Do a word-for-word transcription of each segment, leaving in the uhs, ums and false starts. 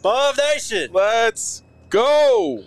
Above Nation. Let's go.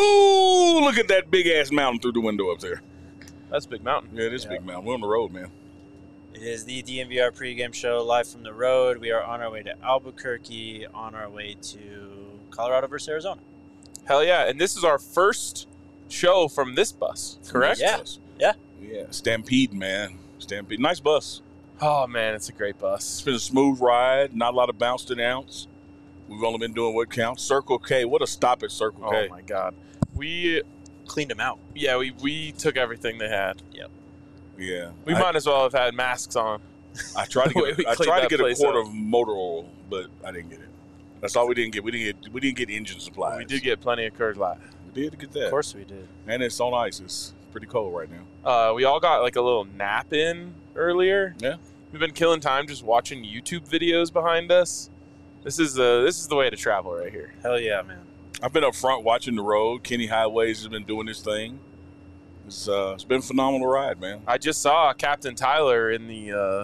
You look at that big ass mountain through the window up there. That's Big Mountain. Yeah, it is Yeah. Big Mountain. We're on the road, man. It is the D N V R pregame show live from the road. We are on our way to Albuquerque, on our way to Colorado versus Arizona. Hell yeah. And this is our first show from this bus, correct? Yeah. Yeah. Yeah. Stampede, man. Stampede. Nice bus. Oh, man, it's a great It's bus. been a smooth ride. Not a lot of bounce to the ounce. We've only been doing what counts. Circle K. What a stop at Circle Oh, K. my God. We, Cleaned them out. yeah, we, we took everything they had. Yeah. We I, might as well have had masks on. I tried to the way get. we I cleaned tried to that get a place quart up. of motor oil, but I didn't get it. That's all we didn't get. We didn't get. We didn't get engine supplies. We did get plenty of Coors Light. We did get that. Of course we did. And it's on ice. It's pretty cold right now. Uh, we all got like a little nap in earlier. Yeah. We've been killing time just watching YouTube videos behind us. This is uh, this is the way to travel right here. Hell yeah, man. I've been up front watching the road. Kenny Highways has been doing his thing. It's uh, it's been a phenomenal ride, man. I just saw Captain Tyler in the uh,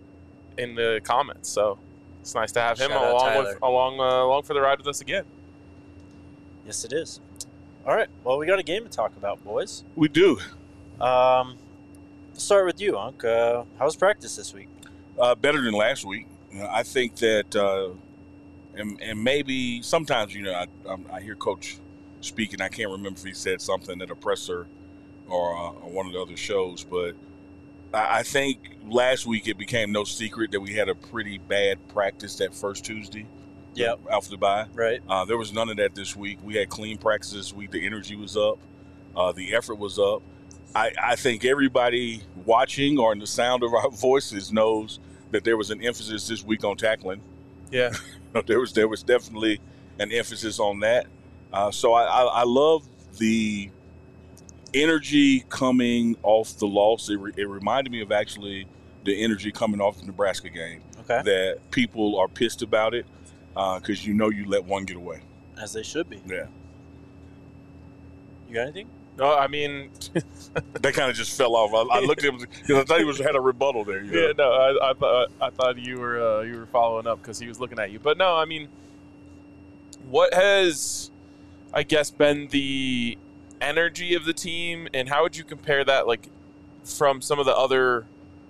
in the comments, so it's nice to have him Shout out along Tyler. with along uh, along for the ride with us again. Yes, it is. All right. Well, we got a game to talk about, boys. We do. Um, let's start with you, Unc. Uh, how was practice this week? Uh, better than last week. You know, I think that, uh, and, and maybe sometimes, you know, I, I'm- I hear Coach speak, and I can't remember if he said something at a presser or uh, on one of the other shows, but I, I think last week it became no secret that we had a pretty bad practice that first Tuesday. Yep. After the bye. Right. Uh, there was none of that this week. We had clean practice this week. The energy was up. Uh, the effort was up. I, I think everybody watching or in the sound of our voices knows that there was an emphasis this week on tackling. Yeah, there was there was definitely an emphasis on that. Uh, so I, I, I love the energy coming off the loss. It, re, it reminded me of actually the energy coming off the Nebraska game. Okay. That people are pissed about it because uh, you know you let one get away. As they should be. Yeah. You got anything? no, I mean, That kind of just fell off. I, I looked at him because I thought he was had a rebuttal there. You know? yeah, no, I, I thought I thought you were uh, you were following up because he was looking at you, but no, I mean, what has, I guess, been the energy of the team, and how would you compare that, like, from some of the other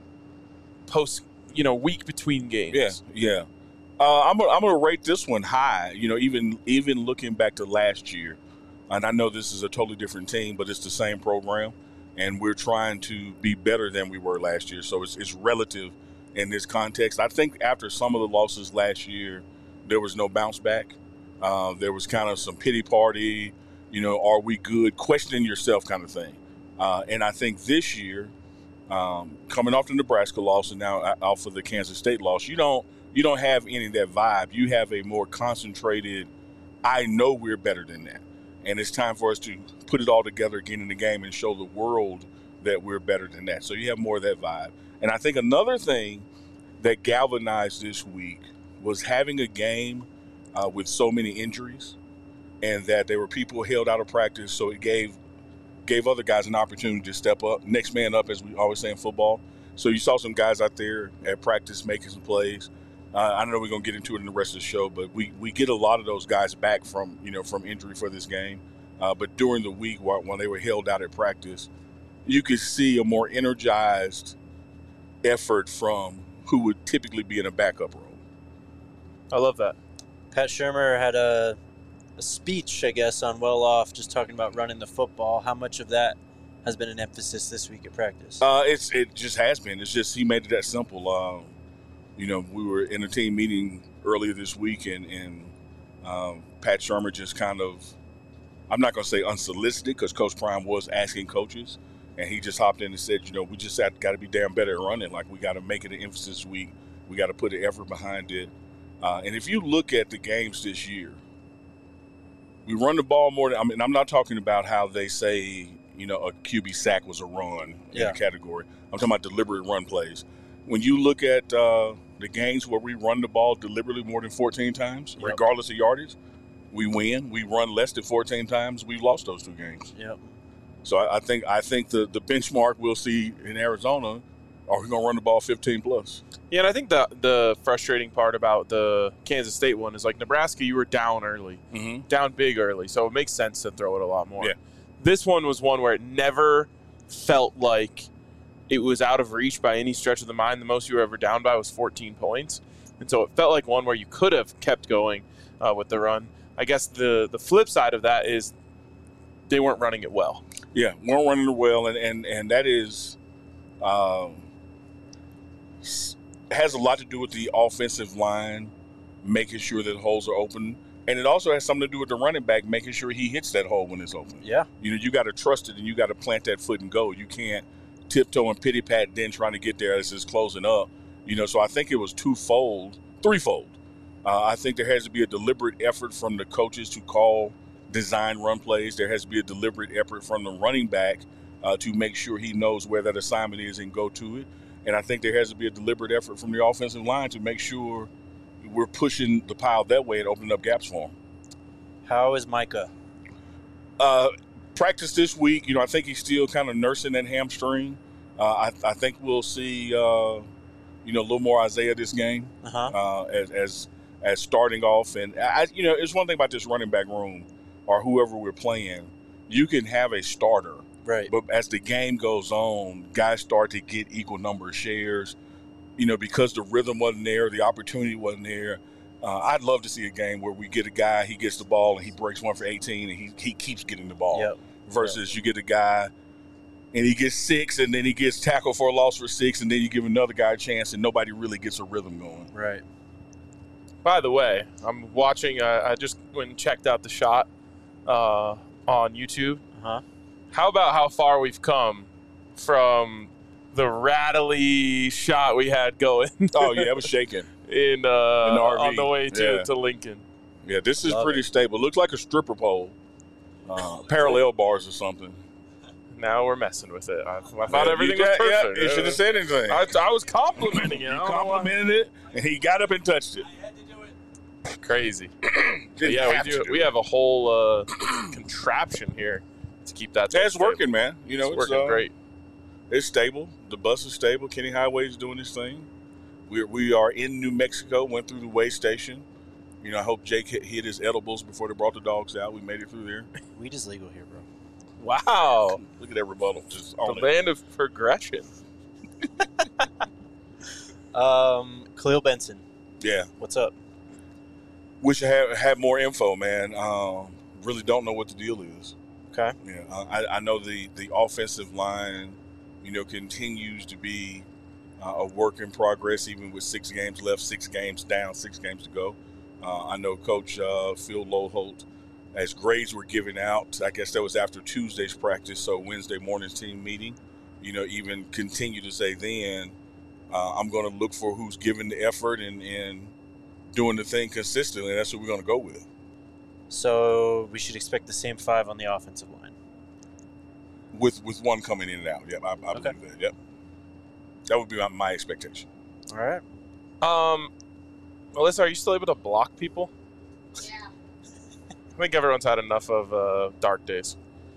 post, you know, week between games? Yeah, yeah. Uh, I'm gonna, I'm gonna rate this one high. You know, even even looking back to last year, and I know this is a totally different team, but it's the same program, and we're trying to be better than we were last year. So it's it's relative in this context. I think after some of the losses last year, there was no bounce back. Uh, there was kind of some pity party. You know, are we good? Questioning yourself, kind of thing. Uh, and I think this year, um, coming off the Nebraska loss and now off of the Kansas State loss, you don't. You don't have any of that vibe. You have a more concentrated, I know we're better than that. And it's time for us to put it all together again in the game and show the world that we're better than that. So you have more of that vibe. And I think another thing that galvanized this week was having a game uh, with so many injuries and that there were people held out of practice. So it gave gave other guys an opportunity to step up, next man up, as we always say in football. So you saw some guys out there at practice making some plays. Uh, I know we're gonna get into it in the rest of the show, but we, we get a lot of those guys back from you know from injury for this game. Uh, but during the week, while, when they were held out at practice, you could see a more energized effort from who would typically be in a backup role. I love that. Pat Shermer had a, a speech, I guess, on Well Off, just talking about running the football. How much of that has been an emphasis this week at practice? Uh, it's it just has been. It's just he made it that simple. Um, you know, we were in a team meeting earlier this week, and, and um, Pat Shermer just kind of, I'm not going to say unsolicited, because Coach Prime was asking coaches, and he just hopped in and said, you know, we just got to be damn better at running. Like, we got to make it an emphasis week. We got to put the effort behind it. Uh, and if you look at the games this year, we run the ball more than, I mean, I'm not talking about how they say, you know, a Q B sack was a run in Yeah. the category. I'm talking about deliberate run plays. When you look at uh, the games where we run the ball deliberately more than fourteen times, Yep. regardless of yardage, we win. We run less than fourteen times, we've lost those two games. Yep. So I, I think I think the, the benchmark we'll see in Arizona Are we going to run the ball fifteen plus? Yeah, and I think the the frustrating part about the Kansas State one is like Nebraska, you were down early, Mm-hmm. down big early, so it makes sense to throw it a lot more. Yeah. This one was one where it never felt like it was out of reach by any stretch of the mind. The most you were ever down by was fourteen points, and so it felt like one where you could have kept going uh, with the run. I guess the the flip side of that is they weren't running it well. Yeah, weren't running it well, and and and that is um, has a lot to do with the offensive line making sure that holes are open, and it also has something to do with the running back making sure he hits that hole when it's open. Yeah. You know, you got to trust it, and you got to plant that foot and go. You can't tiptoe and pity pat then trying to get there as it's closing up. You know, so I think it was twofold, threefold. Uh, I think there has to be a deliberate effort from the coaches to call design run plays. There has to be a deliberate effort from the running back uh, to make sure he knows where that assignment is and go to it. And I think there has to be a deliberate effort from the offensive line to make sure we're pushing the pile that way and opening up gaps for him. How is Micah? Uh, practice this week. You know, I think he's still kind of nursing that hamstring. Uh, I, I think we'll see, uh, you know, a little more Isaiah this game Uh-huh. uh, as, as as starting off. And, I, you know, it's one thing about this running back room or whoever we're playing. You can have a starter, Right. but as the game goes on, guys start to get equal number of shares. You know, because the rhythm wasn't there, the opportunity wasn't there. Uh, I'd love to see a game where we get a guy, he gets the ball, and he breaks one for eighteen, and he, he keeps getting the ball. Yep. Versus you get a guy, and he gets six, and then he gets tackled for a loss for six, and then you give another guy a chance, and nobody really gets a rhythm going. Right. By the way, I'm watching. Uh, I just went and checked out the shot uh, on YouTube. Uh-huh. How about how far we've come from the rattly shot we had going Oh, yeah, it was shaking. in, uh, In the R V. on the way to, Yeah. to Lincoln? Yeah, this is Love pretty it. stable. Looks like a stripper pole. Uh, parallel bars or something. Now we're messing with it. I, I thought Yeah, everything you, was yeah, perfect. Yeah, you should have said anything. I, I was complimenting it. I You don't know why. complimented it, and he got up and touched it. Crazy. But Didn't yeah, have we to do. do We it. have a whole uh, contraption here to keep that. Yeah, it's stable. working, man. You know, It's it's, working uh, great. It's stable. The bus is stable. Kenny Highway is doing his thing. We we are in New Mexico. Went through the way station. You know, I hope Jake hit, hit his edibles before they brought the dogs out. We made it through there. Weed is legal here, bro. Wow, Look at that rebuttal. Just the on it. land of progression. Um, Khalil Benson, Yeah. what's up? Wish I had had more info, man. Um, really don't know what the deal is. Okay. Yeah, uh, I, I know the, the offensive line, you know, continues to be uh, a work in progress, even with six games left, six games down, six games to go. Uh, I know Coach uh, Phil Loholt, as grades were given out, I guess that was after Tuesday's practice, so Wednesday morning's team meeting, you know, even continue to say then, uh, I'm going to look for who's giving the effort and, and doing the thing consistently, and that's what we're going to go with. So we should expect the same five on the offensive line. With with one coming in and out. Yep, I, I believe Okay. that. Yep. That would be my, my expectation. All right. Um, Alyssa, are you still able to block people? Yeah. I think everyone's had enough of uh, dark days.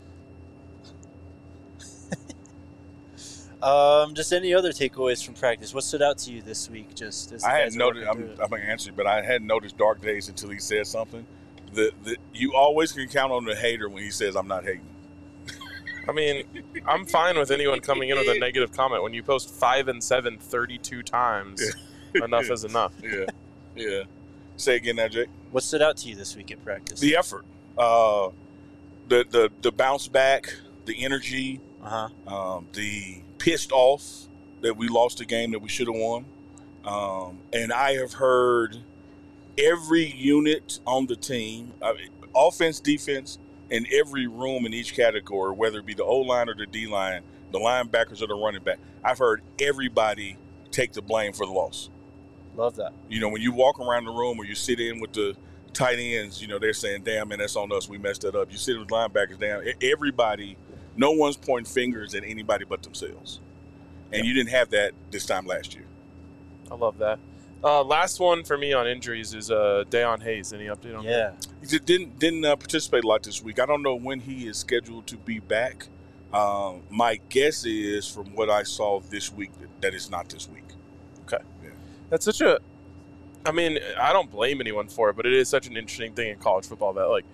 Um, just any other takeaways from practice? What stood out to you this week? Just as the I had guys are noticed. working I'm, through it? I'm gonna answer, but I hadn't noticed dark days until he said something. The, the you always can count on the hater when he says I'm not hating. I mean, I'm fine with anyone coming in with a negative comment. When you post five and seven thirty-two times, enough is enough. Yeah, yeah. Say again, now, Jake. What stood out to you this week at practice? The effort, uh, the the the bounce back, the energy, uh huh. um, the pissed off that we lost a game that we should have won. Um, and I have heard every unit on the team, uh, offense, defense, in every room in each category, whether it be the O-line or the D-line, the linebackers or the running back. I've heard everybody take the blame for the loss. Love that. You know, when you walk around the room or you sit in with the tight ends, you know, they're saying, damn, man, that's on us. We messed that up. You sit with linebackers down. Everybody, no one's pointing fingers at anybody but themselves. And you didn't have that this time last year. I love that. Uh, last one for me on injuries is uh, Deion Hayes. Any update on Yeah. He did- didn't didn't uh, participate a lot this week. I don't know when he is scheduled to be back. Um, my guess is, from what I saw this week, that, that it's not this week. Okay. Yeah. That's such a – I mean, I don't blame anyone for it, but it is such an interesting thing in college football that, like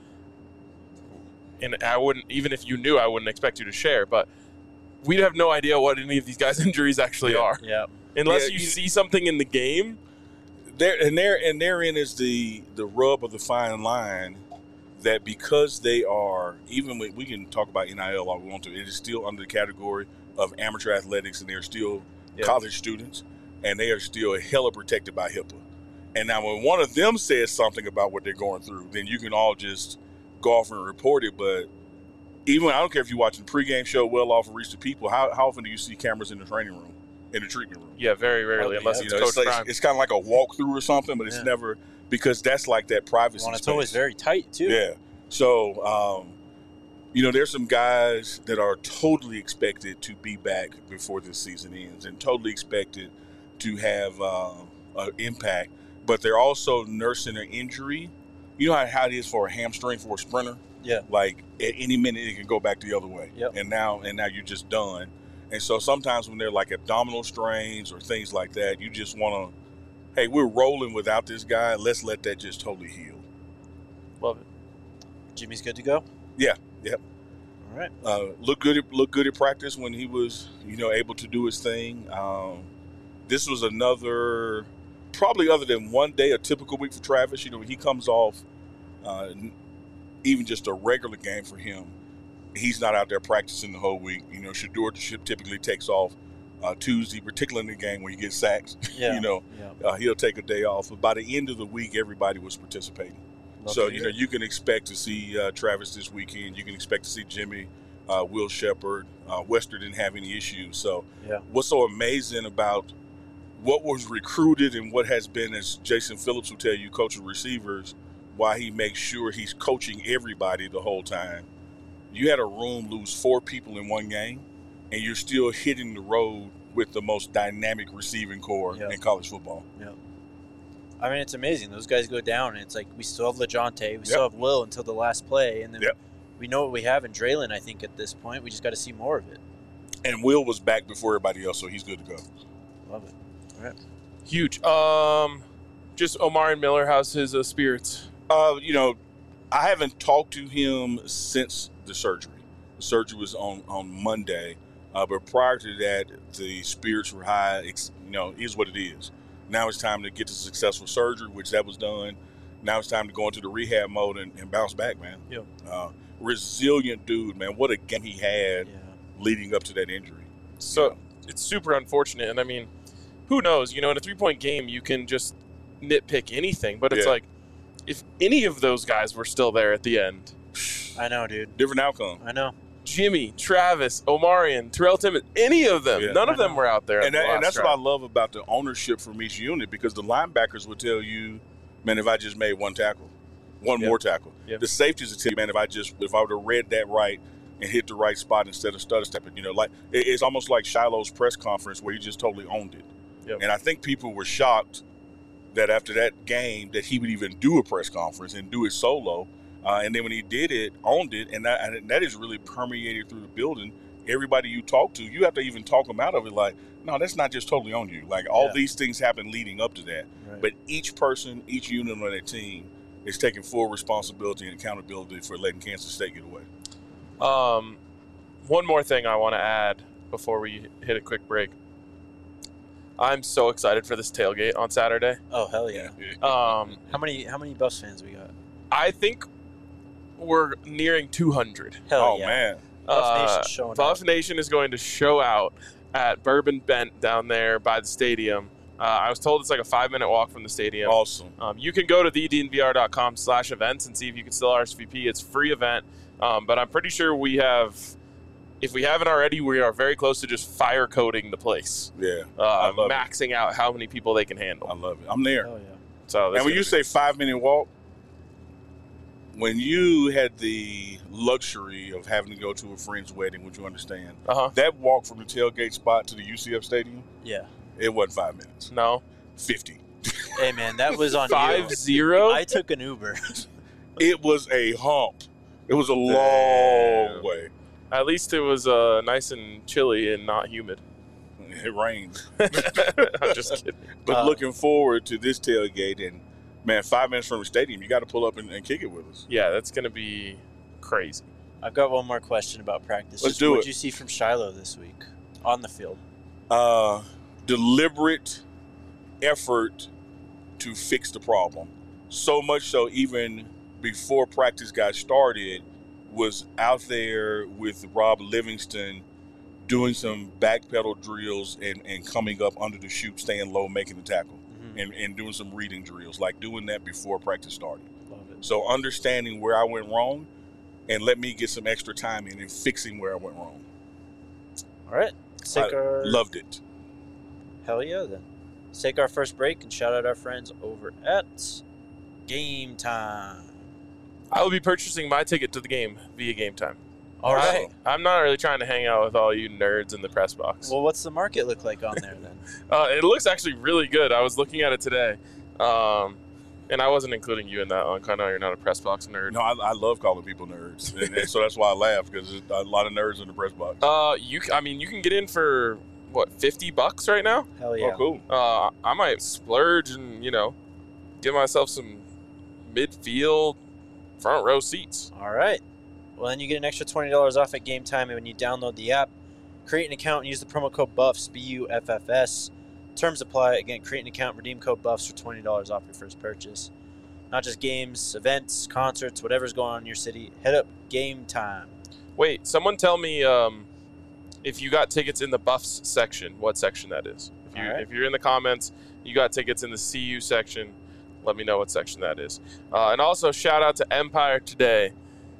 – and I wouldn't – even if you knew, I wouldn't expect you to share, but we'd have no idea what any of these guys' injuries actually Yeah. are. Yeah. Unless Yeah, you you- see something in the game. There and there and therein is the the rub of the fine line that because they are, even when we can talk about N I L all we want to, it is still under the category of amateur athletics, and they're still Yeah. college students, and they are still hella protected by HIPAA. And now when one of them says something about what they're going through, then you can all just go off and report it. But even I don't care if you're watching the pregame show, Well Off and Reach the People, how, how often do you see cameras in the training room, in the treatment room? Yeah, very rarely, Okay, unless yeah. it's You know, Coach it's, like, Prime. it's kind of like a walkthrough or something, but it's Yeah. never because that's like that privacy. Well, it's space. always very tight too. Yeah. So, um, you know, there's some guys that are totally expected to be back before this season ends, and totally expected to have uh, an impact. But they're also nursing an injury. You know how, how it is for a hamstring for a sprinter. Yeah. Like at any minute it can go back the other way. Yep. And now and now you're just done. And so sometimes when they're like abdominal strains or things like that, you just want to, hey, we're rolling without this guy. Let's let that just totally heal. Love it. Jimmy's good to go. Yeah. Yep. All right. Uh, look good. At, look good at practice when he was, you know, able to do his thing. Um, this was another, probably other than one day, a typical week for Travis. You know, he comes off, uh, even just a regular game for him. He's not out there practicing the whole week. You know, Shedeur typically takes off uh, Tuesday, particularly in the game when he gets sacks. Yeah. you know, Yeah. uh, he'll take a day off. But by the end of the week, everybody was participating. Love So, to you hear know, it. you can expect to see uh, Travis this weekend. You can expect to see Jimmy, uh, Will Shepard. Uh, Wester didn't have any issues. So, Yeah. what's so amazing about what was recruited and what has been, as Jason Phillips will tell you, coaching receivers, why he makes sure he's coaching everybody the whole time. You had a room lose four people in one game, and you're still hitting the road with the most dynamic receiving core Yeah. in college football. I mean, it's amazing. Those guys go down, and it's like we still have LeJontay, we still have Will until the last play, and then Yep. we know what we have in Draylon. I think at this point, we just got to see more of it. And Will was back before everybody else, so he's good to go. Love it. All right. Huge. Um, just Omar and Miller. How's his uh, spirits? Uh, you know, I haven't talked to him since the surgery. The surgery was on, on Monday, uh, but prior to that, the spirits were high. It's, you know, is what it is. Now it's time to get to successful surgery, which that was done. Now it's time to go into the rehab mode and, and bounce back, man. Yeah. Uh, resilient dude, man. What a game he had Yeah. leading up to that injury. So Yeah. it's super unfortunate, and I mean, who knows? You know, in a three-point game, you can just nitpick anything, but it's Yeah. like if any of those guys were still there at the end, I know, dude. Different outcome. I know. Jimmy, Travis, Omarion, Terrell Timmons, any of them, Yeah. none of I them know. were out there. And, at that, the and last that's drive. what I love about the ownership from each unit, because the linebackers would tell you, man, if I just made one tackle, one Yep. more tackle. Yep. The safeties would tell you, man, if I just if I would have read that right and hit the right spot instead of stutter stepping, you know, like it, it's almost like Shiloh's press conference where he just totally owned it. Yep. And I think people were shocked that after that game that he would even do a press conference and do it solo. Uh, and then when he did it, owned it, and that, and that is really permeated through the building. Everybody you talk to, you have to even talk them out of it. Like, no, that's not just totally on you. Like, all Yeah. these things happen leading up to that. Right. But each person, each unit on that team is taking full responsibility and accountability for letting Kansas State get away. Um, one more thing I want to add before we hit a quick break. I'm so excited for this tailgate on Saturday. Oh hell yeah! Um, How many how many Buffs fans we got? I think we're nearing two hundred. Hell oh, yeah! man. Buff Uh, Nation's showing Buff up. Nation is going to show out at Bourbon Bent down there by the stadium. Uh, I was told it's like a five-minute walk from the stadium. Awesome. Um, you can go to the d n v r dot com slash events and see if you can still R S V P. It's a free event, um, but I'm pretty sure we have, if we haven't already, we are very close to just fire coding the place, Yeah. uh, I love maxing out how many people they can I handle. love it. I'm there. Oh yeah. So And when you say five minute walk, when you had the luxury of having to go to a friend's wedding, which you understand, uh-huh. that walk from the tailgate spot to the U C F Stadium, Yeah. it wasn't five minutes. No. fifty. Hey man, that was on Five you. zero? I took an Uber. It was a hump. It was a long Damn. way. At least it was uh, nice and chilly and not humid. It rained. I'm just kidding. But Uh, looking forward to this tailgate, and man, five minutes from the stadium, you got to pull up and, and kick it with us. Yeah, that's going to be crazy. I've got one more question about practice. Let's Just do what it. did you see from Shiloh this week on the field? Uh, deliberate effort to fix the problem. So much so, even before practice got started, was out there with Rob Livingston doing some backpedal drills and, and coming up under the chute, staying low, making the tackle, Mm-hmm. and, and doing some reading drills, like doing that before practice started. Love it. So understanding where I went wrong and let me get some extra time in and fixing where I went wrong. All right. Let's take I our, loved it. Hell yeah, then. Let's take our first break and shout out our friends over at Game Time. I will be purchasing my ticket to the game via Game Time. All right. I, I'm not really trying to hang out with all you nerds in the press box. Well, what's the market look like on there then? Uh, it looks actually really good. I was looking at it today, um, and I wasn't including you in that one. I know you're not a press box nerd. No, I, I love calling people nerds, and, and so that's why I laugh, because there's a lot of nerds in the press box. Uh, you, c- I mean, you can get in for what, fifty bucks right now? Hell yeah. Oh, cool. Uh, I might splurge and you know, give myself some midfield, front row seats. All right. Well, then you get an extra twenty dollars off at Game Time when you download the app. Create an account and use the promo code BUFFS, B U F F S. Terms apply. Again, create an account, redeem code BUFFS for twenty dollars off your first purchase. Not just games, events, concerts, whatever's going on in your city. Head up Game Time. Wait, someone tell me um, if you got tickets in the Buffs section, what section that is. If you All right. if you're in the comments, you got tickets in the C U section. Let me know what section that is. Uh, and also shout out to Empire Today.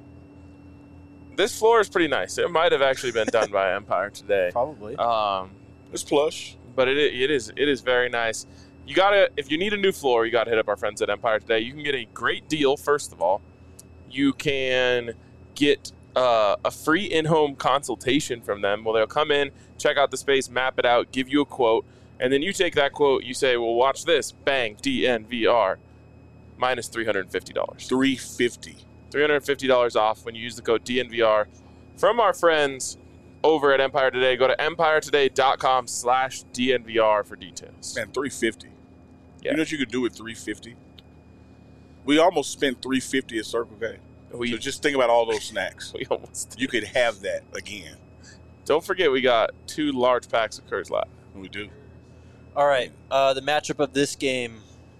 This floor is pretty nice. It might have actually been done by Empire Today. Probably. Um, It's plush. but it it is it is very nice. You gotta if you need a new floor, you gotta hit up our friends at Empire Today. You can get a great deal. First of all, you can get uh, a free in-home consultation from them. Well, they'll come in, check out the space, map it out, give you a quote, and then you take that quote. You say, "Well, watch this, bang, D N V R, minus three hundred and fifty dollars." three fifty. three hundred fifty dollars off when you use the code D N V R from our friends over at Empire Today. Go to empiretoday.com slash DNVR for details. Man, three fifty. Yeah. You know what you could do with three fifty? We almost spent three fifty at Circle K. We, So just think about all those snacks. we almost You could have that again. Don't forget we got two large packs of Coors Light. We do. All right. Uh, the matchup of this game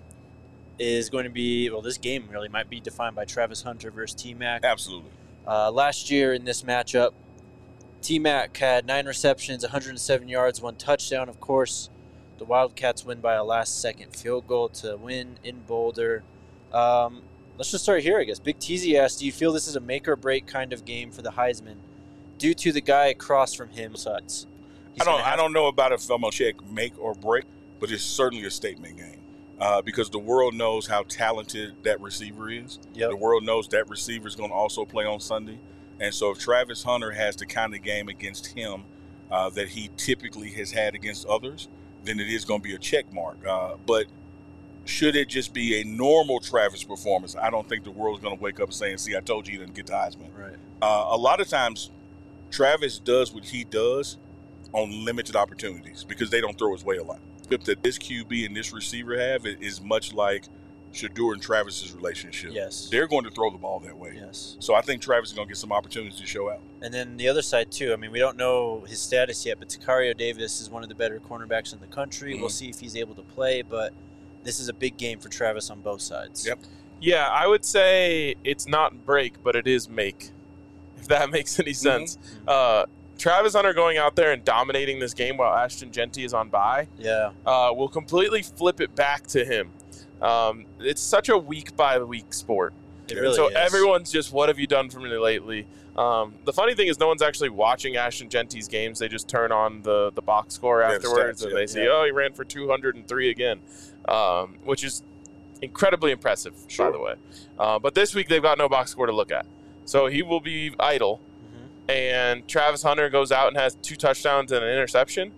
is going to be, well, this game really might be defined by Travis Hunter versus T-Mac. Absolutely. Uh, last year in this matchup, T-Mac had nine receptions, one hundred seven yards, one touchdown. Of course, the Wildcats win by a last-second field goal to win in Boulder. Um, let's just start here, I guess. Big Teasy asked, do you feel this is a make-or-break kind of game for the Heisman due to the guy across from him? Suds. I don't I don't know about if I'm going to check make or break, but it's certainly a statement game. Uh, because the world knows how talented that receiver is. Yep. The world knows that receiver is going to also play on Sunday. And so if Travis Hunter has the kind of game against him uh, that he typically has had against others, then it is going to be a check mark. Uh, but should it just be a normal Travis performance, I don't think the world is going to wake up and say, see, I told you he didn't get the Heisman. Right. Uh, a lot of times, Travis does what he does on limited opportunities because they don't throw his way a lot. That this Q B and this receiver have is much like Shedeur and Travis's relationship. Yes. They're going to throw the ball that way. Yes. So I think Travis is going to get some opportunities to show out. And then the other side, too. I mean, we don't know his status yet, but Takario Davis is one of the better cornerbacks in the country. Mhm. We'll see if he's able to play, but this is a big game for Travis on both sides. Yep. Yeah, I would say it's not break, but it is make, if that makes any sense. Uh, Travis Hunter going out there and dominating this game while Ashton Genty is on bye Yeah. uh, will completely flip it back to him. Um, it's such a week-by-week sport. It really so is. everyone's just, what have you done for me lately? Um, the funny thing is no one's actually watching Ashton Genty's games. They just turn on the, the box score Yeah, the afterwards, stats, and yeah. they see, Yeah. oh, he ran for two hundred three again, um, which is incredibly impressive, Sure. by the way. Uh, but this week they've got no box score to look at. So he will be idle, Mhm. and Travis Hunter goes out and has two touchdowns and an interception.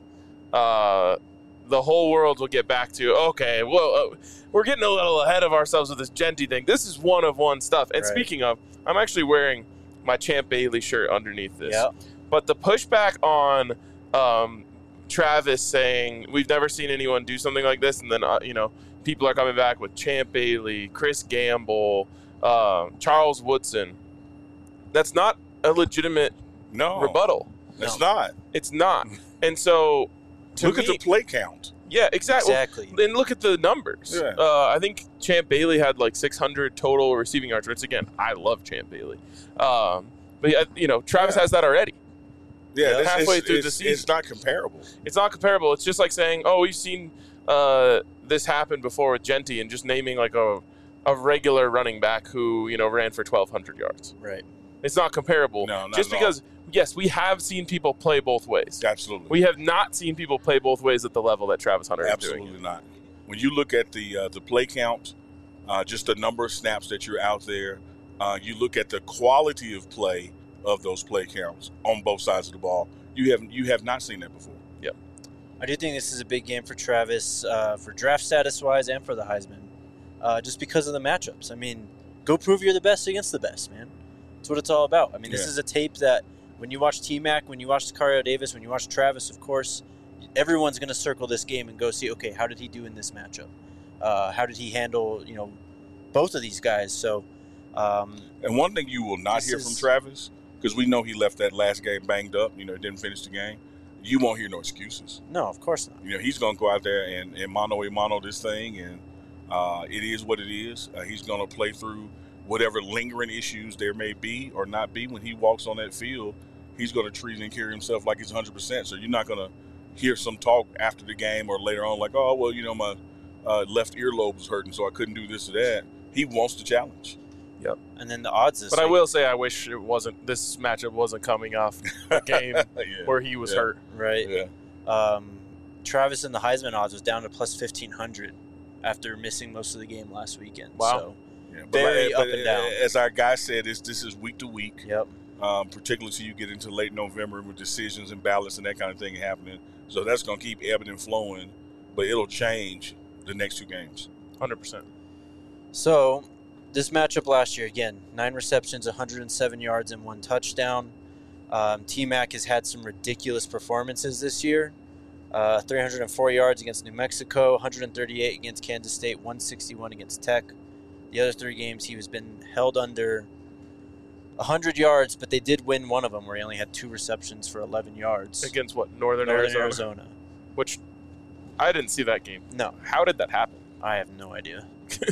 Uh, the whole world will get back to, okay, well, uh, we're getting a little ahead of ourselves with this Genty thing. This is one of one stuff. And Right. speaking of, I'm actually wearing my Champ Bailey shirt underneath this. Yeah. But the pushback on um, Travis saying we've never seen anyone do something like this, and then uh, you know people are coming back with Champ Bailey, Chris Gamble, uh, Charles Woodson. That's not a legitimate no rebuttal. It's No. not. It's not. And so, to Look me, at the play count. yeah, exactly. Exactly. Then look at the numbers. Yeah. Uh, I think Champ Bailey had like six hundred total receiving yards. Which again, I love Champ Bailey. Um, but yeah, you know, Travis Yeah. has that already. Yeah, Yeah. that's, Halfway it's, through it's, the season. it's not comparable. It's not comparable. It's just like saying, "Oh, we've seen uh, this happen before with Genty," and just naming like a a regular running back who you know ran for twelve hundred yards. Right. It's not comparable. No, not just at all. because yes, we have seen people play both ways. Absolutely. We have not seen people play both ways at the level that Travis Hunter is doing. Absolutely not. When you look at the uh, the play count, uh, just the number of snaps that you're out there, uh, you look at the quality of play of those play counts on both sides of the ball. You have you have not seen that before. I do think this is a big game for Travis, uh, for draft status wise and for the Heisman, uh, just because of the matchups. I mean, go prove you're the best against the best, man. That's what it's all about. I mean, this Yeah. is a tape that when you watch T-Mac, when you watch Sicario Davis, when you watch Travis, of course, everyone's going to circle this game and go see, okay, how did he do in this matchup? Uh, how did he handle, you know, both of these guys? So, um, And one thing you will not This hear is- from Travis, because we know he left that last game banged up, you know, didn't finish the game. You won't hear no excuses. no, of course not. You know, he's going to go out there and, and mano a mano this thing, and uh, it is what it is. Uh, he's going to play through whatever lingering issues there may be or not be. When he walks on that field, he's going to treat and carry himself like he's one hundred percent. So you're not going to hear some talk after the game or later on like, oh, well, you know, my uh, left earlobe was hurting, so I couldn't do this or that. He wants the challenge. And then the odds this But I week- will say, I wish it wasn't. This matchup wasn't coming off a game yeah. where he was Yeah. hurt. right? Yeah. Um, Travis and the Heisman odds was down to plus fifteen hundred after missing most of the game last weekend. Wow. So, Yeah. But Very like- up but and down. As our guy said, this, this is week to week. yep. Um, particularly till you get into late November with decisions and ballots and that kind of thing happening. So that's going to keep ebbing and flowing, but it'll change the next two games. one hundred percent. So, this matchup last year, again, nine receptions, one hundred seven yards, and one touchdown. Um, T-Mac has had some ridiculous performances this year. Uh, three hundred four yards against New Mexico, one hundred thirty-eight against Kansas State, one sixty-one against Tech. The other three games, he has been held under one hundred yards, but they did win one of them where he only had two receptions for eleven yards. Against what? Northern, Northern Arizona? Arizona. Which I didn't see that game. No, How did that happen? I have no idea.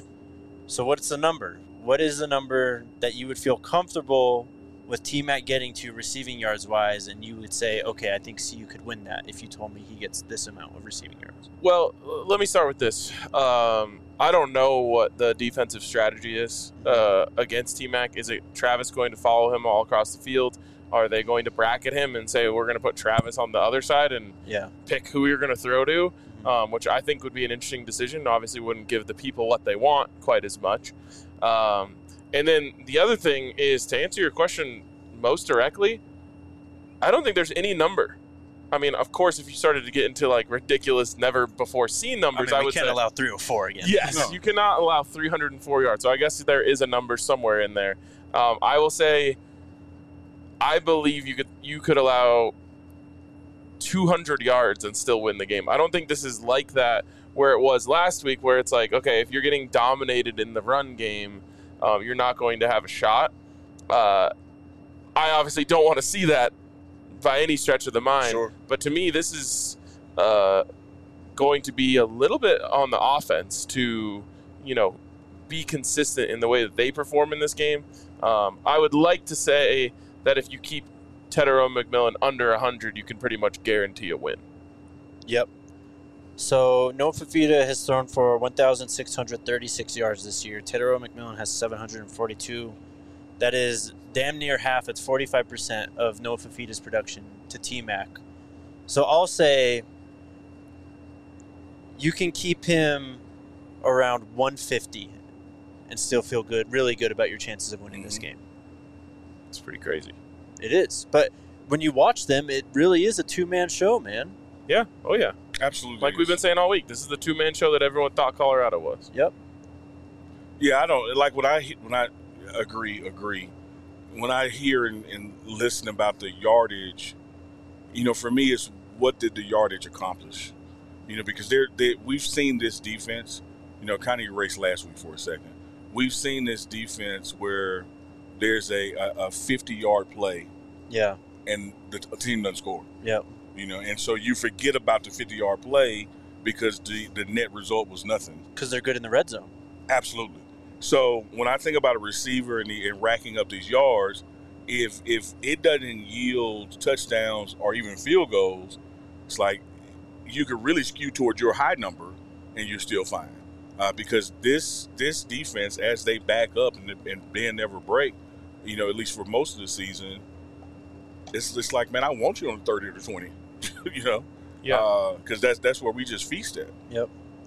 So what's the number? What is the number that you would feel comfortable with T-Mac getting to receiving yards wise, and you would say, okay, I think C U could win that if you told me he gets this amount of receiving yards? Well, uh, let me start with this. Um, I don't know what the defensive strategy is uh, against T-Mac. Is it Travis going to follow him all across the field? Are they going to bracket him and say, we're going to put Travis on the other side and Yeah. pick who you're going to throw to? Um, which I think would be an interesting decision. Obviously wouldn't give the people what they want quite as much. Um, and then the other thing is, to answer your question most directly, I don't think there's any number. I mean, of course, if you started to get into like ridiculous, never before seen I numbers, mean, I, we would can't say allow three or four again. yes, No. you cannot allow three hundred four yards. So I guess there is a number somewhere in there. Um, I will say, I believe you could you could allow two hundred yards and still win the game. I don't think this is like that where it was last week, where it's like, okay, if you're getting dominated in the run game, um, you're not going to have a shot. Uh, I obviously don't want to see that by any stretch of the mind. Sure. But to me, this is uh, going to be a little bit on the offense to, you know, be consistent in the way that they perform in this game. Um, I would like to say that if you keep Tetero McMillan under one hundred, you can pretty much guarantee a win. Yep. So Noah Fafita has thrown for one thousand six hundred thirty-six yards this year. Tetero McMillan has seven hundred forty-two. That is damn near half. It's forty-five percent of Noah Fafita's production to T-Mac. So I'll say you can keep him around one fifty and still feel good, really good about your chances of winning this Mhm. game. It's pretty crazy. It is. But when you watch them, it really is a two-man show, man. Yeah. Oh, yeah. Absolutely. Like we've been saying all week, this is the two-man show that everyone thought Colorado was. Yep. Yeah, I don't like when I when I agree agree. when I hear and, and listen about the yardage, you know, for me, it's what did the yardage accomplish? You know, because they're, they we've seen this defense, you know, kind of erased last week for a second. We've seen this defense where there's a a fifty-yard play, yeah, and the team doesn't score. Yep. You know, and so you forget about the fifty-yard play because the, the net result was nothing. Because they're good in the red zone. Absolutely. So when I think about a receiver and, the, and racking up these yards, if if it doesn't yield touchdowns or even field goals, it's like you could really skew towards your high number and you're still fine. Uh, because this this defense, as they back up and, and bend never break, you know, at least for most of the season, it's it's like, man, I want you on thirty or twenty, you know? Yeah. Because uh, that's, that's where we just feast at. Yep.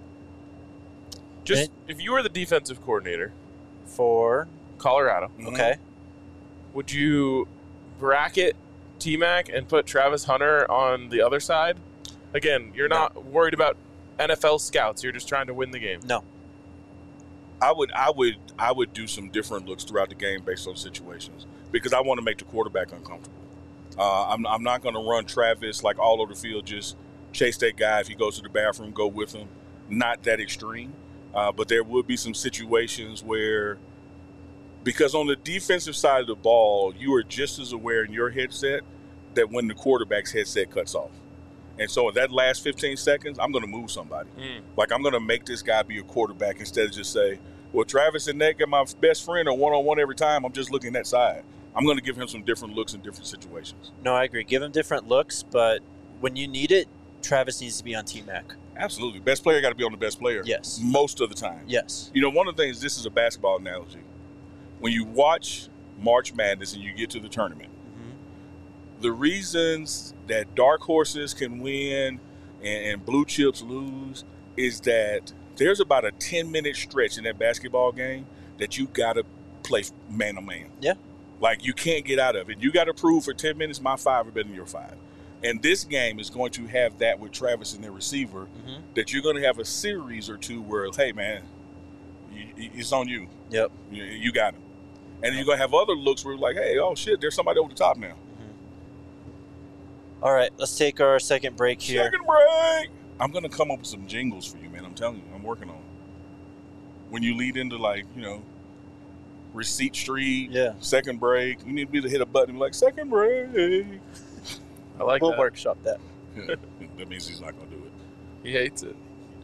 Just if you were the defensive coordinator for Colorado, Mm-hmm. okay, would you bracket T-Mac and put Travis Hunter on the other side? Again, you're No. not worried about N F L scouts. You're just trying to win the game. no, I would I would I would do some different looks throughout the game based on situations because I want to make the quarterback uncomfortable. Uh, I'm I'm not going to run Travis like all over the field, just chase that guy. If he goes to the bathroom, go with him. Not that extreme, uh, but there would be some situations where, because on the defensive side of the ball, you are just as aware in your headset that when the quarterback's headset cuts off. And so in that last fifteen seconds, I'm going to move somebody. Mm. Like, I'm going to make this guy be a quarterback instead of just say, well, Travis and Nick are my best friend or one-on-one every time. I'm just looking that side. I'm going to give him some different looks in different situations. no, I agree. Give him different looks, but when you need it, Travis needs to be on T-Mac. Absolutely. Best player got to be on the best player. Yes. Most of the time. Yes. You know, one of the things, this is a basketball analogy. When you watch March Madness and you get to the tournament, Mm-hmm. the reasons that dark horses can win and, and blue chips lose is that there's about a ten-minute stretch in that basketball game that you got to play man-to-man. Yeah. Like, you can't get out of it. You got to prove for ten minutes my five are better than your five. And this game is going to have that with Travis and their receiver, Mm-hmm. that you're going to have a series or two where, hey, man, you, it's on you. Yep. You, you got him. And then you're going to have other looks where you're like, hey, oh, shit, there's somebody over the top now. All right, let's take our second break here. Second break. I'm going to come up with some jingles for you, man. I'm telling you, I'm working on it. When you lead into, like, you know, Receipt Street, Yeah. second break, you need to be to hit a button and be like, second break. I like We'll that. workshop that. Yeah, that means he's not going to do it. He hates it.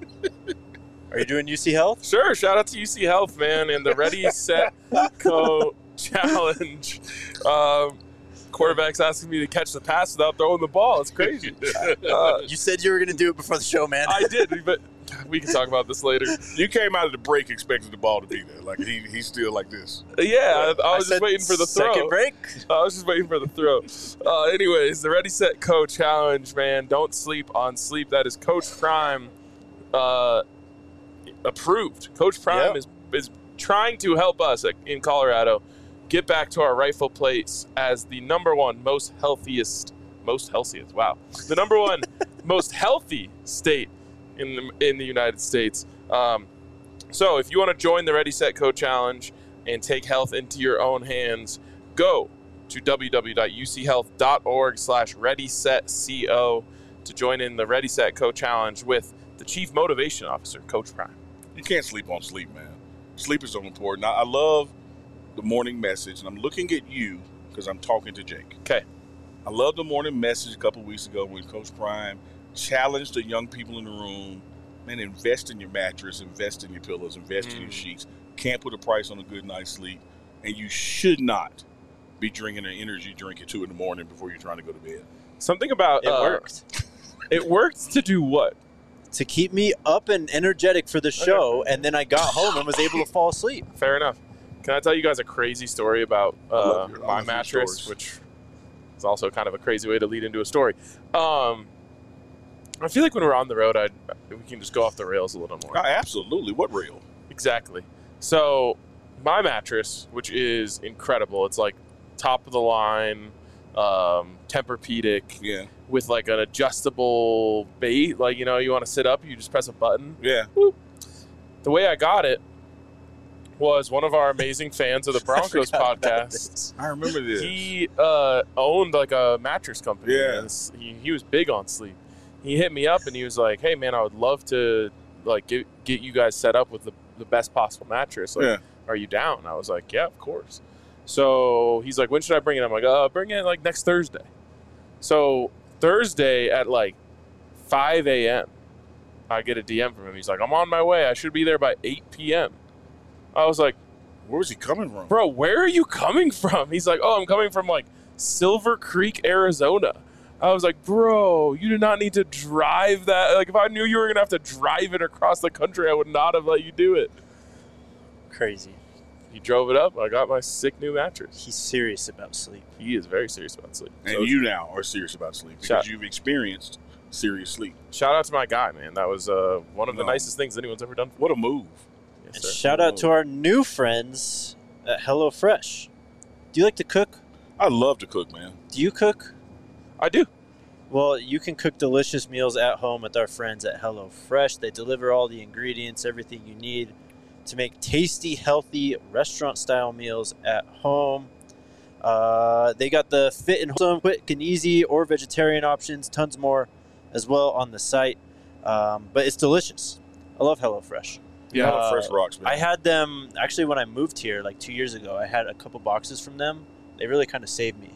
Are you doing U C Health? Sure. Shout out to U C Health, man, and the Ready, Set, Go challenge. Um, quarterback's asking me to catch the pass without throwing the ball. It's crazy. Uh, You said you were going to do it before the show, man. I did, but we can talk about this later. You came out of the break expecting the ball to be there. Like, he he's still like this. Yeah, I, I was said just waiting for the throw. Second break? I was just waiting for the throw. Uh, anyways, the Ready, Set, Go challenge, man. Don't sleep on sleep. That is Coach Prime uh, approved. Coach Prime Yep. is is trying to help us in Colorado get back to our rightful place as the number one most healthiest, most healthiest. Wow, the number one most healthy state in the, in the United States. Um, so, if you want to join the Ready, Set, Go challenge and take health into your own hands, go to w w w dot u c health dot org slash ready set co to join in the Ready, Set, Go challenge with the Chief Motivation Officer, Coach Prime. You can't sleep on sleep, man. Sleep is so important. I, I love the morning message, and I'm looking at you because I'm talking to Jake. Okay. I love the morning message a couple weeks ago when Coach Prime challenged the young people in the room, man, invest in your mattress, invest in your pillows, invest Mm. in your sheets. Can't put a price on a good night's sleep, and you should not be drinking an energy drink at two in the morning before you're trying to go to bed. Something about It uh, worked. It worked to do what? To keep me up and energetic for the show, and then I got home and was able to fall asleep. Fair enough. Can I tell you guys a crazy story about uh, love your- I my love your mattress, stories. which is also kind of a crazy way to lead into a story. Um, I feel like when we're on the road, I'd, we can just go off the rails a little more. Oh, absolutely. What real? Exactly. So my mattress, which is incredible, it's like top of the line, um, Tempur-Pedic Yeah. with like an adjustable base. Like, you know, you want to sit up, you just press a button. Yeah. The way I got it was one of our amazing fans of the Broncos forgot about podcast. this. I remember this. He uh, owned like a mattress company. Yeah. and s- He, he was big on sleep. He hit me up and he was like, "Hey man, I would love to like get get you guys set up with the, the best possible mattress. Like, Yeah. are you down?" I was like, "Yeah, of course." So he's like, "When should I bring it?" I'm like, "Uh, bring it like next Thursday." So Thursday at like five a.m. I get a D M from him. He's like, "I'm on my way. I should be there by eight p.m." I was like, Where was he coming from? "Bro, where are you coming from?" He's like, "Oh, I'm coming from like Silver Creek, Arizona." I was like, "Bro, you do not need to drive that. Like, if I knew you were going to have to drive it across the country, I would not have let you do it." Crazy. He drove it up. I got my sick new mattress. He's serious about sleep. He is very serious about sleep. And So you now are serious about sleep because Shout- you've experienced serious sleep. shout out to my guy, man. That was uh, one of the No. nicest things anyone's ever done for me. What a move. Yes, And sir. shout out to our new friends at HelloFresh. Do you like to cook? I love to cook, man. Do you cook? I do. Well, you can cook delicious meals at home with our friends at HelloFresh. They deliver all the ingredients, everything you need to make tasty, healthy, restaurant-style meals at home. Uh, they got the fit and wholesome, quick and easy, or vegetarian options, tons more as well on the site. Um, but it's delicious. I love HelloFresh. Yeah. Uh, Fresh rocks, man. I had them, actually, when I moved here, like two years ago, I had a couple boxes from them. They really kind of saved me.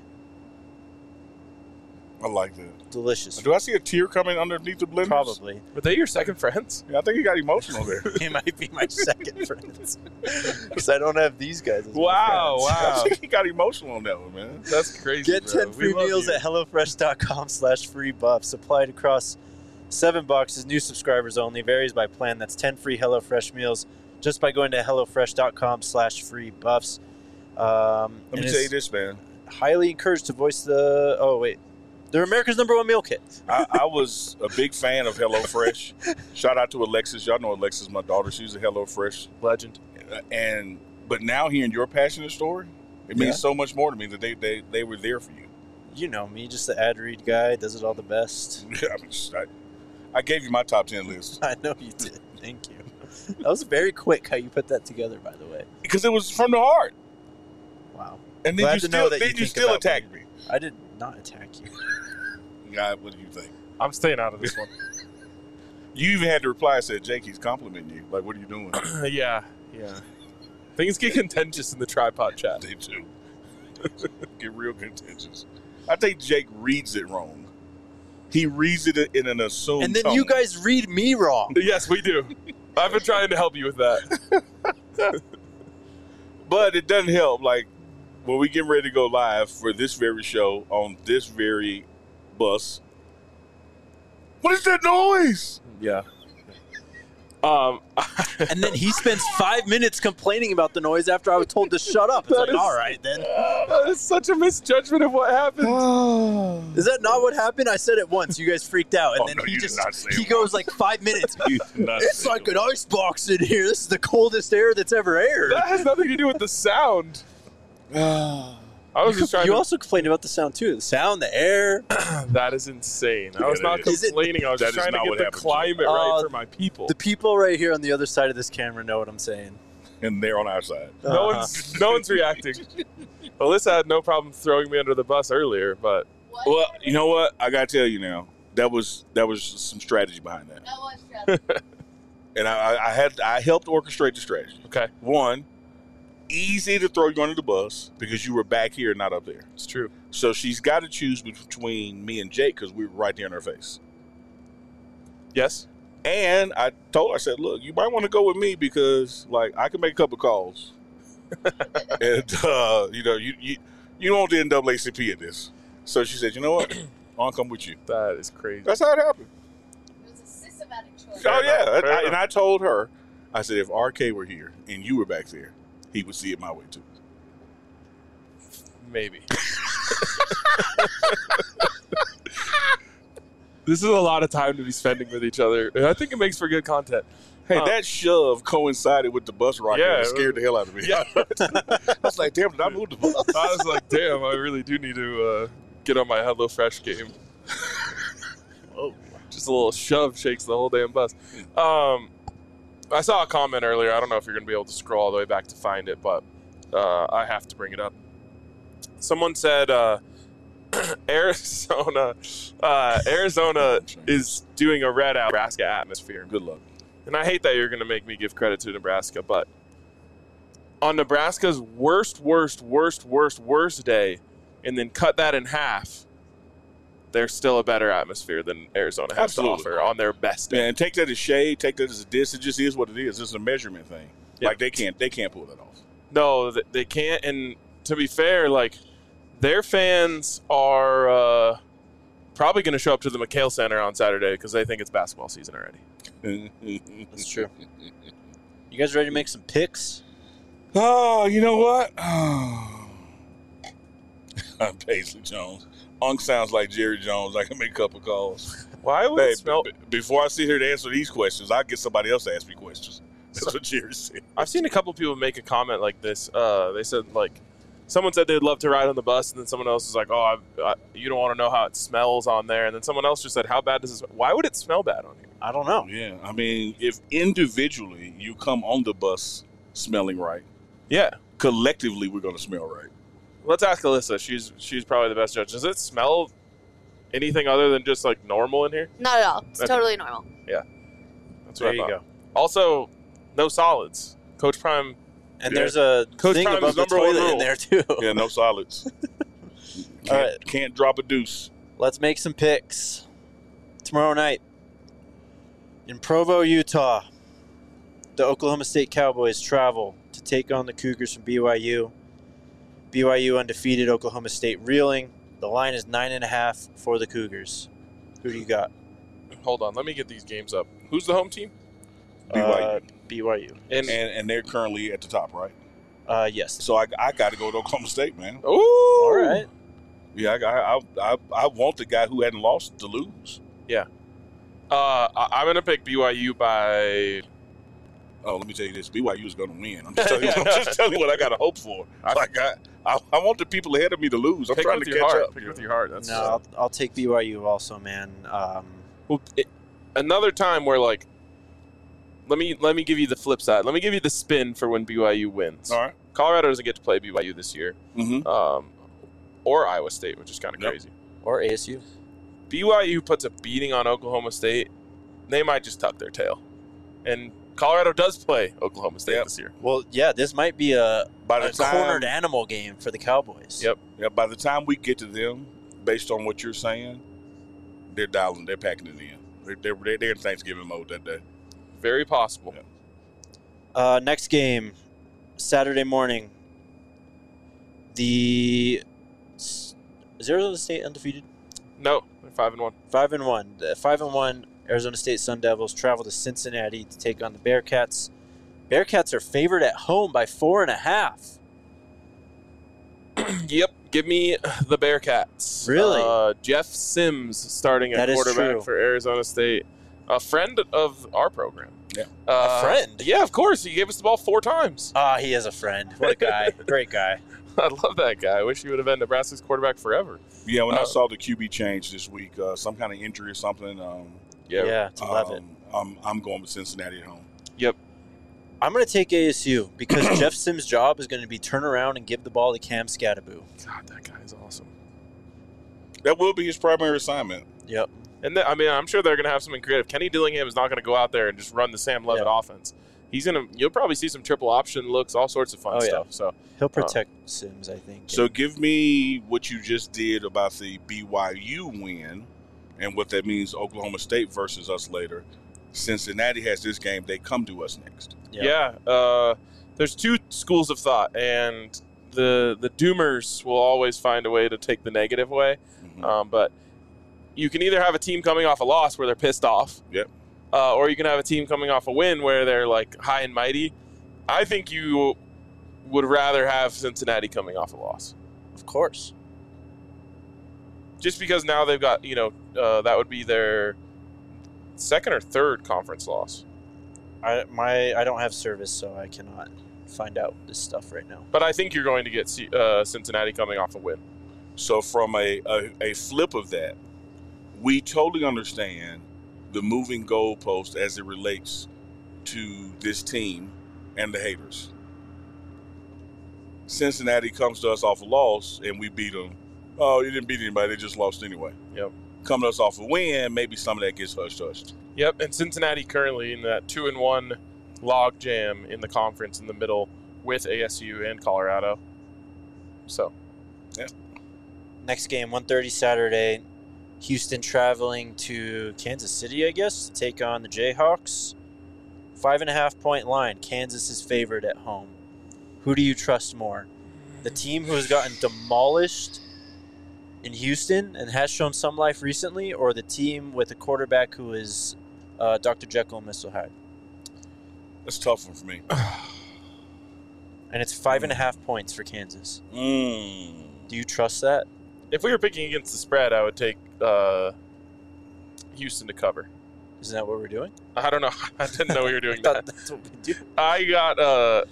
I like that. Delicious. Do I see a tear coming underneath the blenders? Probably. Were they your second friends? Yeah, I think he got emotional there. He might be my second friends. Because I don't have these guys as my Wow, friends. I wow. think he got emotional on that one, man. That's crazy. Get bro. ten We free love meals you. at HelloFresh.com slash free buffs. Applied across seven boxes. New subscribers only. Varies by plan. That's ten free HelloFresh meals just by going to HelloFresh.com slash free buffs. Um, Let and me tell you it's this, man. highly encouraged to voice the... Oh, wait. They're America's number one meal kit. I, I was a big fan of HelloFresh. Shout out to Alexis. Y'all know Alexis, my daughter. She's a HelloFresh. Legend. And but now hearing your passionate story, it means Yeah. so much more to me that they, they, they were there for you. You know me, just the ad read guy. Does it all the best. I, mean, I, I gave you my top ten list I know you did. Thank you. That was very quick how you put that together, by the way. because it was from the heart. Wow. And then Glad you to still, know that then you you, think still about attacked me. me. I did not attack you. God, what do you think? I'm staying out of this one. You even had to reply and said, Jake, he's complimenting you. Like, what are you doing? yeah, yeah. Things get contentious in the tripod chat. They do. Get real contentious. I think Jake reads it wrong. He reads it in an assumed And then tone. you guys read me wrong. Yes, we do. I've been trying to help you with that. But it doesn't help. Like, when we get ready to go live for this very show on this very bus, what is that noise? Yeah. Um, And then he spends five minutes complaining about the noise after I was told to shut up. It's That like, is- all right, then. that is such a misjudgment of what happened. Is that not what happened? I said it once. You guys freaked out. And Oh, then no, he you did just, not say he it goes like five minutes. You did not It's say like it. an ice box in here. This is the coldest air that's ever aired. That has nothing to do with the sound. I was just trying You to. also complained about the sound, too. The sound, the air. That is insane. I Yeah, was not that is. Is it- complaining. I was That just is trying to not get what the happened, climate Jim. right Uh, for my people. The people right here on the other side of this camera know what I'm saying. And they're on our side. No Uh-huh. one's no one's reacting. Alyssa had no problem throwing me under the bus earlier, but Well, you know what? I got to tell you now. That was that was some strategy behind that. That was strategy. And I, I had I helped orchestrate the strategy. okay, One, easy to throw you under the bus because you were back here, not up there. it's true. So she's got to choose between me and Jake because we were right there in her face. Yes. And I told her, I said, look, you might want to go with me because, like, I can make a couple calls. and, uh, you know, you, you you don't want the N double A C P in this. So she said, you know what? I'll come with you. That is crazy. That's how it happened. It was a systematic choice. Fair oh, yeah. enough, fair I- and enough. I told her, I said, if R K were here and you were back there, he would see it my way, too. Maybe. This is a lot of time to be spending with each other. And I think it makes for good content. Hey, Uh, that shove coincided with the bus rocket. Yeah, and it scared the hell out of me. Yeah. I was like, damn, did I move the bus? I was like, damn, I really do need to uh, get on my HelloFresh game. Whoa. Just a little shove shakes the whole damn bus. Um, I saw a comment earlier. I don't know if you're going to be able to scroll all the way back to find it, but uh, I have to bring it up. Someone said uh, Arizona, uh, Arizona is doing a red out Nebraska atmosphere. Good luck. And I hate that you're going to make me give credit to Nebraska, but on Nebraska's worst, worst, worst, worst, worst day, and then cut that in half, there's still a better atmosphere than Arizona has Absolutely. to offer on their best day. Yeah, and take that as shade, take that as a diss. It just is what it is. It's a measurement thing. Yep. Like they can't, they can't pull that off. No, th- they can't. And to be fair, like their fans are uh, probably going to show up to the McHale Center on Saturday because they think it's basketball season already. That's true. You guys ready to make some picks? Oh, you know what? Oh. I'm Paisley Jones. Unk sounds like Jerry Jones. I can make a couple calls. Why would Hey, it smell? b- b- before I sit here to answer these questions, I'll get somebody else to ask me questions. That's what Jerry said. I've seen a couple people make a comment like this. Uh, they said like, someone said they'd love to ride on the bus, and then someone else is like, "Oh, I, I, you don't want to know how it smells on there." And then someone else just said, "How bad does it smell?" Why would it smell bad on here? I don't know. Yeah, I mean, if individually you come on the bus smelling right, Yeah, collectively we're going to smell right. let's ask Alyssa. She's she's probably the best judge. Does it smell anything other than just like normal in here? Not at all. It's Okay. totally normal. That's There what I you thought. go. Also, no solids. Coach Prime. And Yeah. there's a Coach thing Prime's above the number one toilet in rule. there too. Yeah, no solids. Can't, All right. can't drop a deuce. Let's make some picks. Tomorrow night in Provo, Utah, the Oklahoma State Cowboys travel to take on the Cougars from B Y U. B Y U undefeated, Oklahoma State reeling. The line is nine and a half for the Cougars. Who do you got? Hold on, let me get these games up. Who's the home team? B Y U. Uh, B Y U. And, And and they're currently at the top, right? Uh, yes. So I, I got to go to Oklahoma State, man. ooh, All right. Yeah, I, I I I want the guy who hadn't lost to lose. Uh, I- I'm gonna pick B Y U by. Oh, let me tell you this: B Y U is going to win. I'm just telling you. I'm just telling you what I got to hope for. Like I, I, I want the people ahead of me to lose. I'm Pick trying with to your catch heart. up. Pick with your heart. That's No, I'll, I'll take B Y U also, man. Um, Well, it, another time where like, let me let me give you the flip side. Let me give you the spin for when B Y U wins. All right. Colorado doesn't get to play B Y U this year, Mm-hmm. um, or Iowa State, which is kind of Yep. crazy. or A S U. B Y U puts a beating on Oklahoma State, they might just tuck their tail. And Colorado does play Oklahoma State Yep. this year. Well, yeah, this might be a, By the a time, cornered animal game for the Cowboys. Yep. yeah, by the time we get to them, based on what you're saying, they're dialing, they're packing it in. They're they're, they're, they're in Thanksgiving mode that day. Very possible. Yep. Uh, next game, Saturday morning. The is Arizona State undefeated? No, they're five and one. Five and one. The five and one Arizona State Sun Devils travel to Cincinnati to take on the Bearcats. Bearcats are favored at home by four and a half. Yep. Give me the Bearcats. Really? Uh, Jeff Sims starting at That is quarterback true. for Arizona State. A friend of our program. Yeah. Uh, A friend? Yeah, of course. He gave us the ball four times. Ah, he is a friend. What a guy. Great guy. I love that guy. I wish he would have been Nebraska's quarterback forever. Yeah, when I Uh, saw the Q B change this week, uh, some kind of injury or something. Um, Yeah. Yeah, to love it. um, I'm I'm going with Cincinnati at home. I'm going to take A S U because Jeff Sims' job is going to be turn around and give the ball to Cam Scattaboo. God, that guy is awesome. That will be his primary assignment. Yep. And th- I mean, I'm sure they're going to have something creative. Kenny Dillingham is not going to go out there and just run the Sam Levitt Yeah. offense. He's going to. You'll probably see some triple option looks, all sorts of fun Oh, yeah. stuff. So He'll protect Sims, I think. So give me what you just did about the B Y U win and what that means Oklahoma State versus us later. Cincinnati has this game. They come to us next. Yeah. yeah, uh, there's two schools of thought, and the the doomers will always find a way to take the negative way. Mhm. Um, but you can either have a team coming off a loss where they're pissed off, Yep. uh, or you can have a team coming off a win where they're like high and mighty. I think you would rather have Cincinnati coming off a loss, Of course. just because now they've got, you know, uh, that would be their second or third conference loss. I my I don't have service, so I cannot find out this stuff right now. But I think you're going to get C- uh, Cincinnati coming off a win. So from a, a, a flip of that, we totally understand the moving goalpost as it relates to this team and the haters. Cincinnati comes to us off a loss, and we beat them. Oh, you didn't beat anybody. They just lost anyway. Yep. Coming to us off a win, maybe some of that gets hushed-hushed. Yep, and Cincinnati currently in that two and one log jam in the conference in the middle with A S U and Colorado. So, yeah. Next game, one thirty Saturday. Houston traveling to Kansas City, I guess, to take on the Jayhawks. Five and a half point line. Kansas is favored at home. Who do you trust more? The team who has gotten demolished in Houston and has shown some life recently, or the team with a quarterback who is uh, Doctor Jekyll and Mister Hyde? That's a tough one for me. And it's five and a half points for Kansas. Mm. Do you trust that? if we were picking against the spread, I would take uh, Houston to cover. Isn't that what we're doing? I don't know. I didn't know we were doing I thought that. that's what we do. I got uh,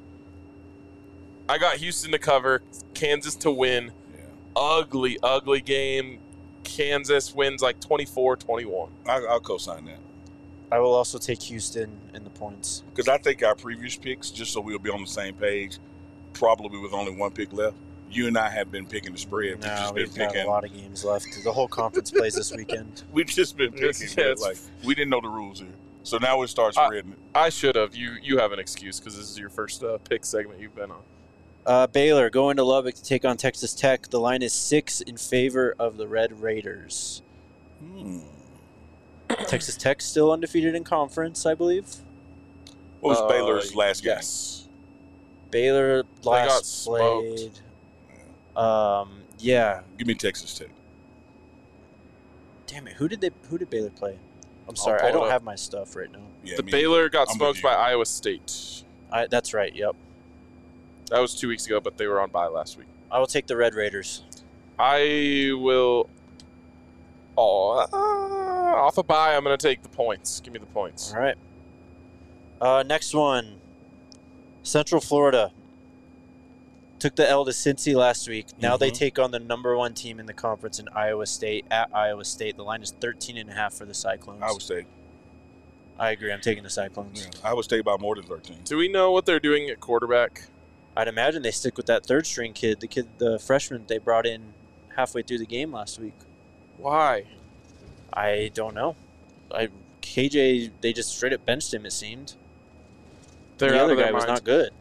I got Houston to cover, Kansas to win. Yeah. Ugly, ugly game. Kansas wins like twenty-four twenty-one. I, I'll co-sign that. I will also take Houston in the points. Because I think our previous picks, just so we'll be on the same page, probably with only one pick left, you and I have been picking the spread. We've No, just been we've got picking. a lot of games left. The whole conference plays this weekend. We've just been picking. Yes, man. yes. Like we didn't know the rules here, so now we start I- spreading it. I should have. You you have an excuse because this is your first uh, pick segment you've been on. Uh, Baylor going to Lubbock to take on Texas Tech. The line is six in favor of the Red Raiders. Hmm. Texas Tech still undefeated in conference, I believe. What was Uh, Baylor's last game? Yes. Baylor got last smoked. played. Um, yeah. Give me Texas Tech. Damn it. Who did they? Who did Baylor play? I'm sorry, pull I it don't up. have my stuff right now. Yeah, the me- Baylor got I'm with smoked you. by Iowa State. I, that's right. Yep. That was two weeks ago, but they were on bye last week. I will take the Red Raiders. I will. Oh, uh, off a bye, I'm going to take the points. Give me the points. All right. Uh, next one. Central Florida took the L to Cincy last week. Now they Mhm. take on the number one team in the conference in Iowa State at Iowa State. The line is thirteen and a half for the Cyclones. Iowa State. I agree. I'm taking the Cyclones. Yeah, Iowa State by more than thirteen. Do we know what they're doing at quarterback? I'd imagine they stick with that third string kid, the kid, the freshman they brought in halfway through the game last week. Why? I don't know. I K J, they just straight up benched him. It seemed. They're the out other of their guy was minds. not good.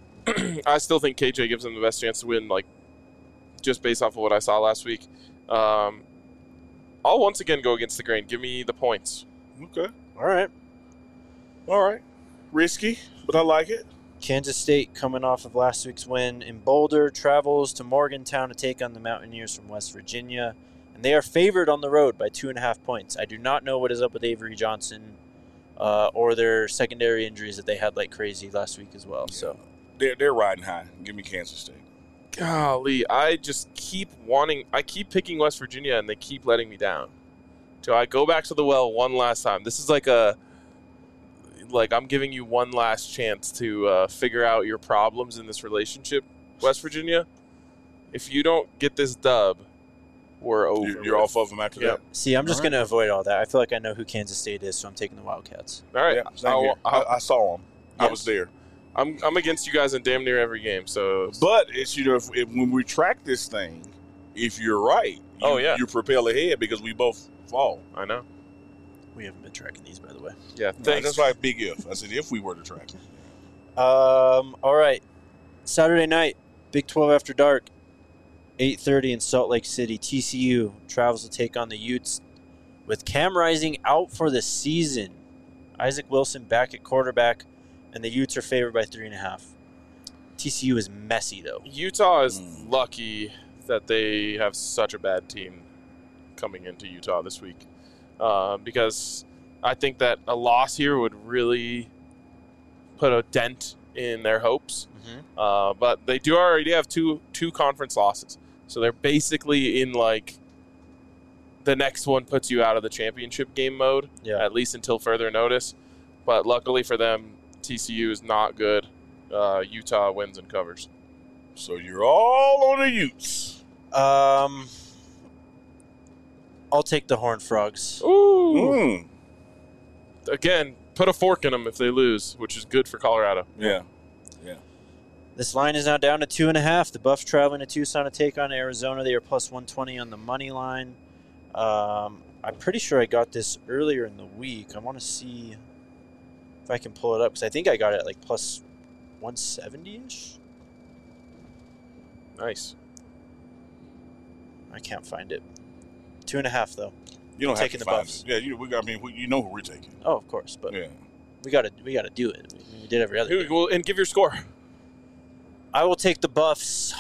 I still think K J gives them the best chance to win, like, just based off of what I saw last week. Um, I'll once again go against the grain. Give me the points. Okay. All right. All right. Risky, but I like it. Kansas State, coming off of last week's win in Boulder, travels to Morgantown to take on the Mountaineers from West Virginia. And they are favored on the road by two and a half points. I do not know what is up with Avery Johnson uh, or their secondary injuries that they had like crazy last week as well. So They're, they're riding high. Give me Kansas State. Golly, I just keep wanting. I keep picking West Virginia, and they keep letting me down. So I go back to the well one last time. This is like a, like I'm giving you one last chance to uh, figure out your problems in this relationship, West Virginia. If you don't get this dub, we're over. You're, you're with. off of them after Yep. see, I'm just All going to avoid all that. I feel like I know who Kansas State is, so I'm taking the Wildcats. All that? right. Yeah, same I'll- here. I'll- I, I saw them. I Yes. was there. I'm I'm against you guys in damn near every game. So But it's you know if, if when we track this thing, if you're right, you, Oh, yeah. you propel ahead because we both fall. I know. We haven't been tracking these, by the way. Yeah. No, Thanks. that's why big if. I said if we were to track it. Um. All right. Saturday night, Big twelve after dark, eight thirty in Salt Lake City. T C U travels to take on the Utes with Cam Rising out for the season. Isaac Wilson back at quarterback, and the Utes are favored by three and a half. T C U is messy though. Utah is Mm. lucky that they have such a bad team coming into Utah this week, uh, because I think that a loss here would really put a dent in their hopes. Mm-hmm. Uh, but they do already have two two conference losses, so they're basically in like the next one puts you out of the championship game mode, Yeah. at least until further notice. But luckily for them, T C U is not good. Uh, Utah wins and covers. So you're all on the Utes. Um. I'll take the Horned Frogs. Ooh. Mm. Again, put a fork in them if they lose, which is good for Colorado. Yeah. This line is now down to two and a half. The Buffs traveling to Tucson to take on Arizona. They are plus one twenty on the money line. Um, I'm pretty sure I got this earlier in the week. I want to see if I can pull it up because I think I got it at like plus one seventy-ish. Nice. I can't find it. Two and a half though. You don't have Taking to the find Buffs. it. Yeah, you, we, I mean, we, you know who we're taking. Oh, of course, but Yeah. we gotta we gotta do it. We, we did every other. Here we game. go, and give your score. I will take the Buffs.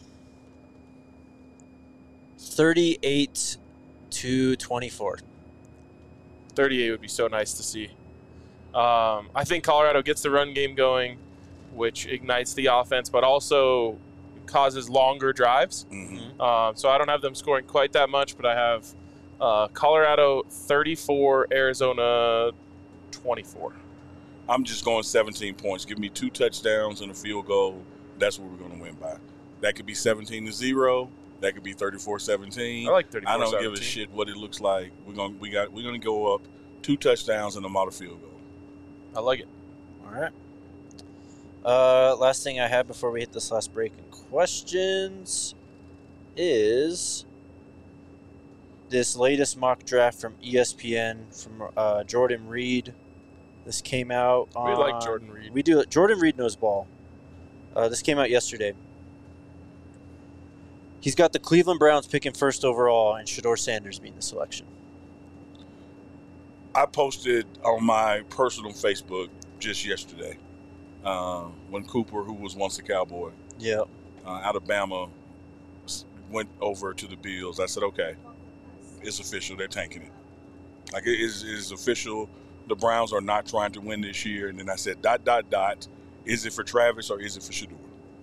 Thirty-eight to twenty-four. thirty-eight would be so nice to see. Um, I think Colorado gets the run game going, which ignites the offense, but also causes longer drives. Mm-hmm. Um, so I don't have them scoring quite that much, but I have uh, Colorado thirty-four, Arizona twenty-four. I'm just going seventeen points. Give me two touchdowns and a field goal. That's what we're going to win by. That could be seventeen to zero. That could be thirty-four seventeen. I like thirty-four I don't seventeen. give a shit what it looks like. We're going we got we're going to go up two touchdowns and a model field goal. I like it. All right. Uh, last thing I have before we hit this last break in questions is this latest mock draft from E S P N from uh, Jordan Reed. This came out on... We like Jordan Reed. We do. Jordan Reed knows ball. Uh, this came out yesterday. He's got the Cleveland Browns picking first overall and Shedeur Sanders being the selection. I posted on my personal Facebook just yesterday uh, when Cooper, who was once a Cowboy, Yeah. uh, Alabama, s- went over to the Bills. I said, okay, it's official. They're tanking it. Like, it is, it is official. The Browns are not trying to win this year. And then I said, dot, dot, dot. Is it for Travis or is it for Shedeur?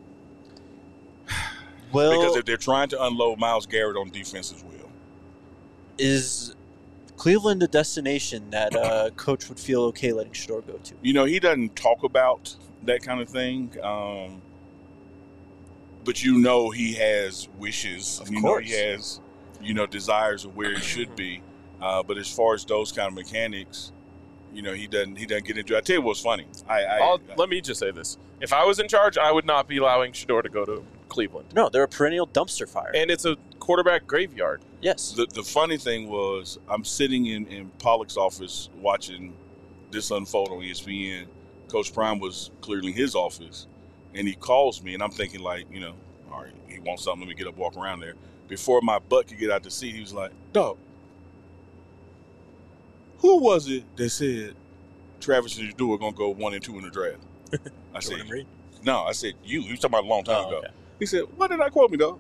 Well, Because if they're trying to unload Myles Garrett on defense as well. is Cleveland a destination that uh, coach would feel okay letting Shedeur go to? You know, he doesn't talk about that kind of thing. Um, but you know he has wishes. Of you course. know he has, you know, desires of where he should be. Uh, but as far as those kind of mechanics, you know, he doesn't he doesn't get into it. I tell you what's funny. I, I, I'll, let me just say this. If I was in charge, I would not be allowing Shedeur to go to Cleveland. No, they're a perennial dumpster fire. And it's a quarterback graveyard. yes. the, the funny thing was I'm sitting in, in Pollock's office watching this unfold on E S P N. Coach Prime was clearly in his office, and he calls me, and I'm thinking like, you know, all right, he wants something. Let me get up, walk around there. Before my butt could get out the seat, he was like, dog, who was it that said Travis and Shedeur are going to go one and two in the draft? I said, Jordan Reed? no, I said, you. He was talking about a long time Oh, ago. okay. He said, why did I quote me, dog?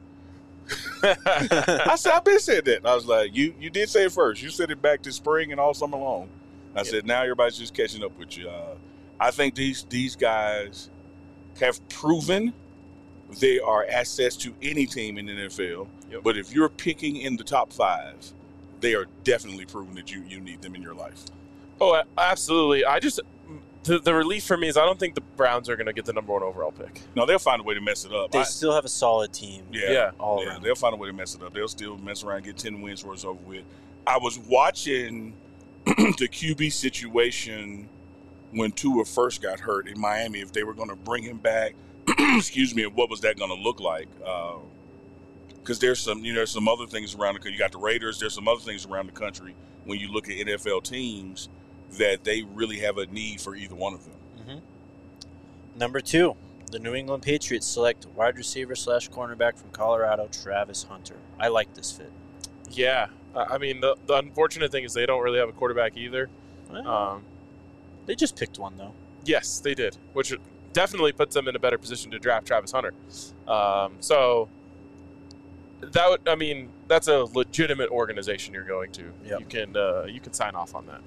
I said, I've been said that. I was like, you you did say it first. You said it back to spring and all summer long. I said, now everybody's just catching up with you. Uh, I think these these guys have proven they are assets to any team in the N F L. Yep. But if you're picking in the top five, they are definitely proving that you, you need them in your life. Oh, a- absolutely. I just the, the relief for me is I don't think the Browns are going to get the number one overall pick. No, they'll find a way to mess it up. They I- still have a solid team. Yeah, Yeah. all yeah, around. they'll find a way to mess it up. They'll still mess around, get ten wins where it's over with. I was watching the Q B situation when Tua first got hurt in Miami. If they were going to bring him back, excuse me, and what was that going to look like? Because there's some, you know, there's some other things around the country. You got the Raiders. There's some other things around the country when you look at N F L teams that they really have a need for either one of them. Mm-hmm. Number two, the New England Patriots select wide receiver slash cornerback from Colorado, Travis Hunter. I like this fit. Yeah. I I mean, the, the unfortunate thing is they don't really have a quarterback either. Well, Um, they just picked one, though. yes, they did, which definitely puts them in a better position to draft Travis Hunter. Um, so that would, I mean, that's a legitimate organization you're going to. Yep. You can uh, you can sign off on that.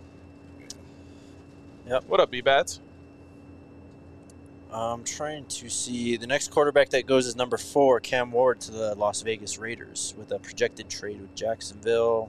Yep. What up, B-Bats? I'm trying to see. The next quarterback that goes is number four, Cam Ward, to the Las Vegas Raiders with a projected trade with Jacksonville.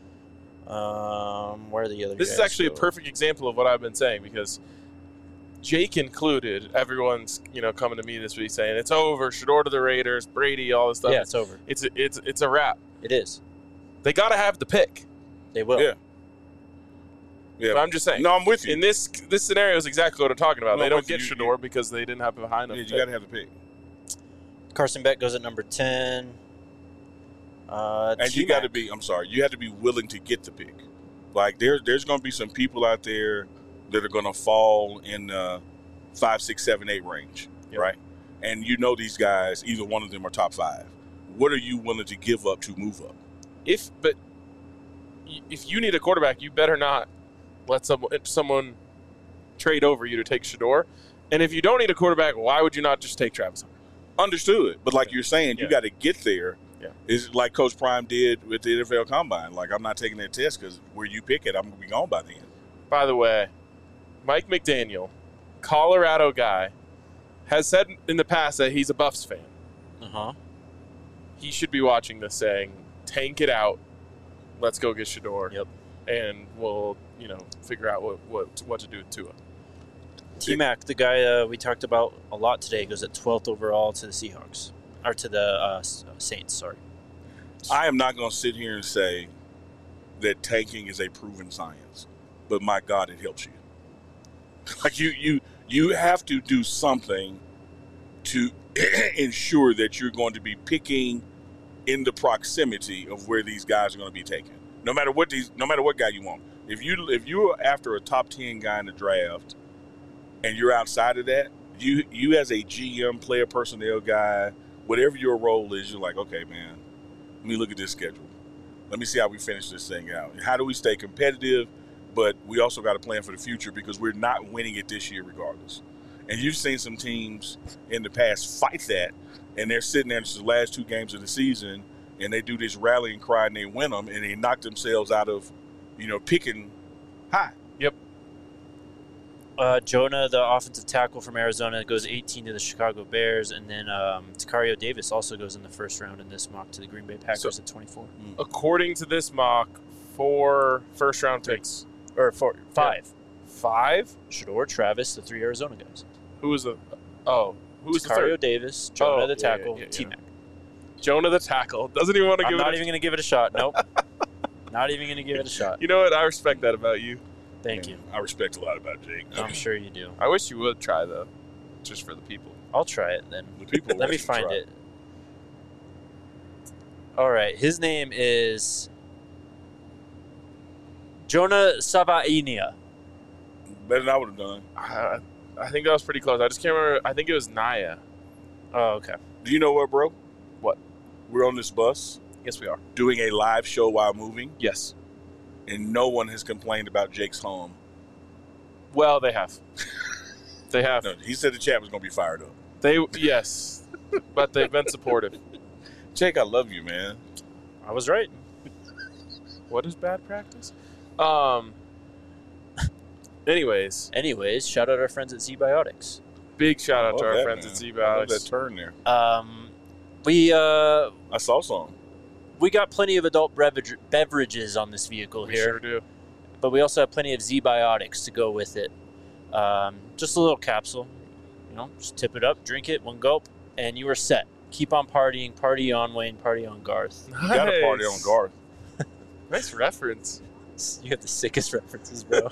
Um, where are the other This guys is actually a go? perfect example of what I've been saying because Jake included, everyone's you know coming to me this week saying it's over, Shedeur to the Raiders, Brady, all this stuff. Yeah, it's over. It's it's it's a wrap. It is. They got to have the pick. They will. Yeah. Yeah. But I'm just saying. No, I'm with you. In this this scenario is exactly what I'm talking about. No, they I'm don't with get you. Shador You- because they didn't have a high enough. Yeah, you pick. got to have the pick. Carson Beck goes at number ten. Uh, And you T-Mac. got to be, I'm sorry, you have to be willing to get the pick. Like, there, there's going to be some people out there that are going to fall in the five, six, seven, eight range, Yep. right? And you know these guys, either one of them are top five. What are you willing to give up to move up? If but y- if you need a quarterback, you better not let someone someone trade over you to take Shador. And if you don't need a quarterback, why would you not just take Travis Hunter? Understood. But like you're saying, Yeah. you got to get there. Yeah. It's like Coach Prime did with the N F L Combine. Like, I'm not taking that test because where you pick it, I'm going to be gone by then. By the way, Mike McDaniel, Colorado guy, has said in the past that he's a Buffs fan. Uh-huh. He should be watching this saying, tank it out. Let's go get Shador. Yep. And we'll, you know, figure out what, what, what to do with Tua. T-Mac, the guy uh, we talked about a lot today, goes at twelfth overall to the Seahawks. Or to the uh, S- Saints, sorry. I am not going to sit here and say that tanking is a proven science, but my God, it helps you. Like you, you, you have to do something to ensure that you're going to be picking in the proximity of where these guys are going to be taken. No matter what these, no matter what guy you want. If you if you're after a top ten guy in the draft, and you're outside of that, you you as a G M, player personnel guy, whatever your role is, you're like, okay, man, let me look at this schedule. Let me see how we finish this thing out. How do we stay competitive? But we also got to plan for the future because we're not winning it this year regardless. And you've seen some teams in the past fight that, and they're sitting there in the last two games of the season, and they do this rallying cry and they win them, and they knock themselves out of, you know, picking high. Yep. Uh, Jonah, the offensive tackle from Arizona, goes eighteen to the Chicago Bears. And then um, Takario Davis also goes in the first round in this mock to the Green Bay Packers So- at twenty-four. According to this mock, four first round picks. Or four, five. Five? Shador, Travis, the three Arizona guys. Who was the Oh, who was the Takario third? Davis, Jonah Oh, the yeah, yeah, tackle, yeah, yeah. T-Mac. Jonah the tackle. Doesn't even want to I'm give not it a even going to give it a shot. Nope. Not even going to give it a shot. You know what? I respect that about you. Thank Man, you. I respect a lot about Jake. I'm sure you do. I wish you would try though. Just for the people. I'll try it then. The people Let me should find try. it. All right. His name is Jonah Savainia. Better than I would have done. I, I think that was pretty close. I just can't remember. I think it was Naya. Oh, okay. Do you know what, bro? What? We're on this bus Yes, we are. doing a live show while moving, Yes. and no one has complained about Jake's home. Well, they have. They have. No, he said the chat was going to be fired up. They yes, but they've been supportive. Jake, I love you, man. I was right. What is bad practice? Um. Anyways, Anyways, shout out our friends at Z Biotics. big shout out to Love our that, friends man. at Z I love that Biotics. turn there. Um, we uh, I saw some. we got plenty of adult beverage, beverages on this vehicle We here, sure do. but we also have plenty of Z Biotics to go with it. Um, just a little capsule, you know, just tip it up, drink it, one gulp, and you are set. Keep on partying, party on Wayne, party on Garth. You got to party on Nice. Garth. Nice reference. You have the sickest references, bro.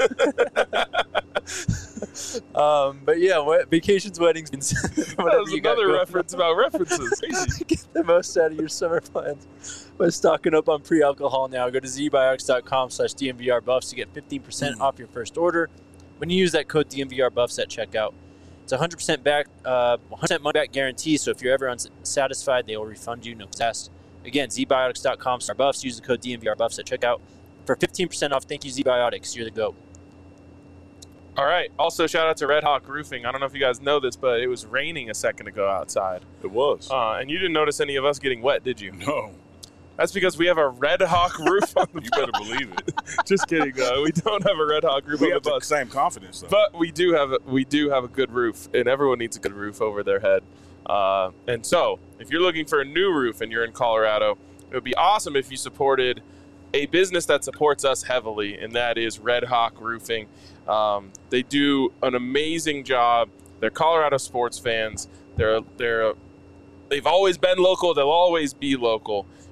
um, but yeah, what, vacations, weddings, That whatever was you got another going reference about references. Crazy. Get the most out of your summer plans by stocking up on pre-alcohol now. Go to zbiotics.com slash DMVR buffs to get fifteen percent Mm. off your first order when you use that code D M V R buffs at checkout. It's one hundred percent back, uh, one hundred percent money back guarantee, so if you're ever unsatisfied, they will refund you, no test. Again, zbiotics.com slash buffs. Use the code D M V R buffs at checkout for fifteen percent off. Thank you, ZBiotics. You're the GOAT. All right. Also, shout out to Red Hawk Roofing. I don't know if you guys know this, but it was raining a second ago outside, It was. uh, and you didn't notice any of us getting wet, did you? no. That's because we have a Red Hawk roof on the You better believe it. Just kidding. Uh, we don't have a Red Hawk roof We on the have the bus. same confidence, though. But we do have a, we do have a good roof, and everyone needs a good roof over their head. Uh, and so, if you're looking for a new roof and you're in Colorado, it would be awesome if you supported a business that supports us heavily, and that is Red Hawk Roofing. Um, they do an amazing job. They're Colorado sports fans. They're they're they've always been local. They'll always be local.